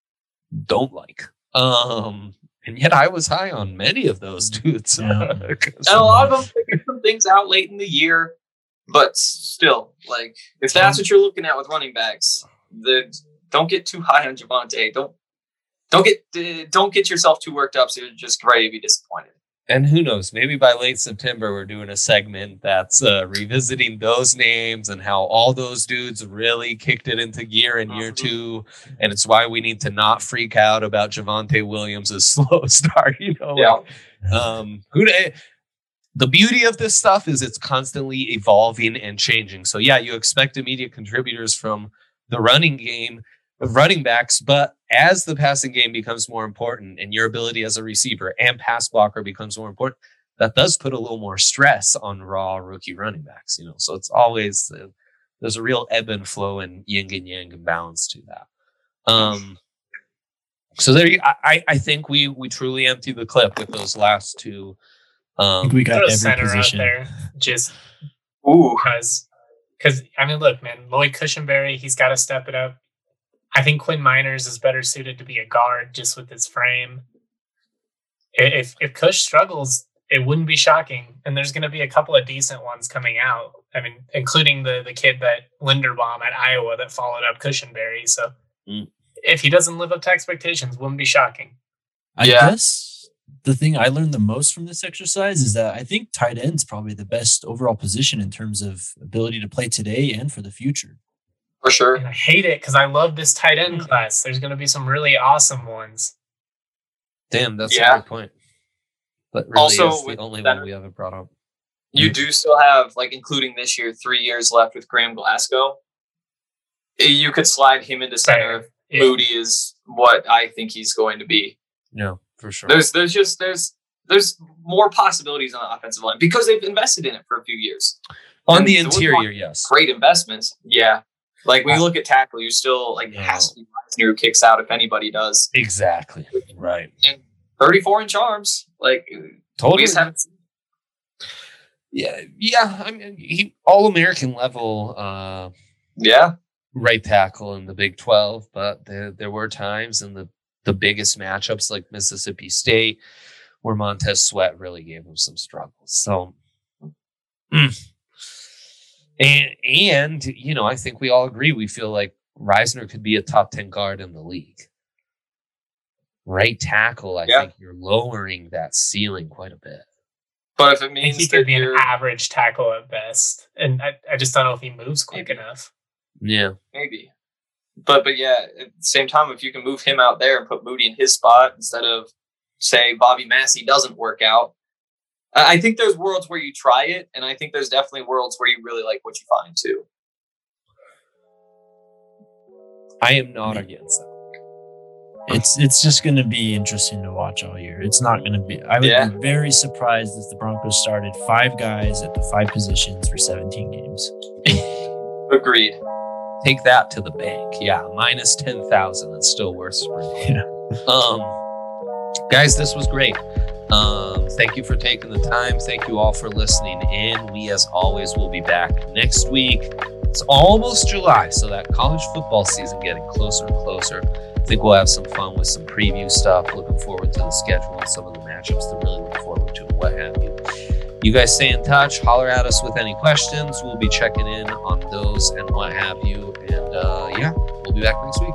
Speaker 2: don't like. Um, and yet I was high on many of those dudes.
Speaker 4: Yeah.
Speaker 1: And a lot of them figured some things out late in the year, but still, like if that's what you're looking at with running backs, the don't get too high on Javonte. Don't don't get uh, don't get yourself too worked up, so you're just ready to be disappointed.
Speaker 2: And who knows, maybe by late September, we're doing a segment that's uh, revisiting those names and how all those dudes really kicked it into gear in year two. And it's why we need to not freak out about Javonte Williams' slow start. You know,
Speaker 1: Yeah.
Speaker 2: like, um, who to, the beauty of this stuff is it's constantly evolving and changing. So yeah, you expect immediate contributors from the running game of running backs, but as the passing game becomes more important and your ability as a receiver and pass blocker becomes more important, that does put a little more stress on raw rookie running backs, you know? So it's always, uh, there's a real ebb and flow and yin and yang and balance to that. Um, so there you, I, I think we, we truly emptied the clip with those last two.
Speaker 4: I
Speaker 2: Um,
Speaker 4: think we got
Speaker 3: Put a
Speaker 4: every
Speaker 3: center
Speaker 4: position.
Speaker 3: out there just
Speaker 1: Ooh,
Speaker 3: because, because I mean, look, man, Lloyd Cushenberry, he's got to step it up. I think Quinn Miners is better suited to be a guard just with his frame. If if Cush struggles, it wouldn't be shocking. And there's going to be a couple of decent ones coming out. I mean, including the the kid that Linderbaum at Iowa that followed up Cushenberry. So
Speaker 2: Mm.
Speaker 3: if he doesn't live up to expectations, wouldn't be shocking.
Speaker 4: I
Speaker 1: Yeah.
Speaker 4: guess the thing I learned the most from this exercise is that I think tight end's probably the best overall position in terms of ability to play today and for the future.
Speaker 1: for sure.
Speaker 3: And I hate it because I love this tight end class. There's going to be some really awesome ones.
Speaker 2: damn, that's
Speaker 1: Yeah.
Speaker 2: a great point. But really
Speaker 1: Also,
Speaker 2: is the
Speaker 1: with
Speaker 2: only
Speaker 1: that-
Speaker 2: one we haven't brought up.
Speaker 1: You do still have, like, including this year, three years left with Graham Glasgow. You could slide him into center if
Speaker 3: Yeah.
Speaker 1: Moody is what I think he's going to be.
Speaker 2: No, for sure.
Speaker 1: There's there's just there's there's more possibilities on the offensive line because they've invested in it for a few years.
Speaker 2: On
Speaker 1: And
Speaker 2: the
Speaker 1: the Woodlawn-
Speaker 2: interior, yes.
Speaker 1: Great investments, yeah. Like when you look at tackle, you're still like, it has to be Reisner who kicks out if anybody does.
Speaker 2: Exactly. Right.
Speaker 1: And thirty-four inch arms. Like,
Speaker 2: Totally.
Speaker 1: we just haven't seen.
Speaker 2: Yeah. Yeah. I mean, he all American level uh,
Speaker 1: Yeah.
Speaker 2: right tackle in the Big twelve, but there, there were times in the, the biggest matchups like Mississippi State where Montez Sweat really gave him some struggles. So, mm. and, and, you know, I think we all agree. We feel like Reisner could be a top ten guard in the league. Right tackle, I
Speaker 1: yeah.
Speaker 2: think you're lowering that ceiling quite a bit.
Speaker 1: But if it
Speaker 3: I think
Speaker 1: means
Speaker 3: he
Speaker 1: that
Speaker 3: could be an
Speaker 1: you're,
Speaker 3: average tackle at best. And I, I just don't know if he moves quick
Speaker 1: Maybe.
Speaker 3: enough.
Speaker 2: Yeah.
Speaker 1: maybe. But but yeah, at the same time, if you can move him out there and put Moody in his spot instead of, say, Bobby Massey doesn't work out, I I think there's worlds where you try it, and I think there's definitely worlds where you really like what you find too.
Speaker 2: I am not against that.
Speaker 4: It's it's just going to be interesting to watch all year. It's not going to be. I would
Speaker 1: Yeah.
Speaker 4: be very surprised if the Broncos started five guys at the five positions for seventeen games.
Speaker 1: Agreed.
Speaker 2: Take that to the bank. Yeah, minus ten thousand. It's still worth sprinting.
Speaker 4: Yeah.
Speaker 2: Um, guys, this was great. Um, thank you for taking the time. Thank you all for listening in. We, as always, will be back next week. It's almost July, so that college football season getting closer and closer. I think we'll have some fun with some preview stuff. Looking forward to the schedule and some of the matchups to really look forward to and what have you. You guys stay in touch. Holler at us with any questions. We'll be checking in on those and what have you. And uh, yeah, we'll be back next week.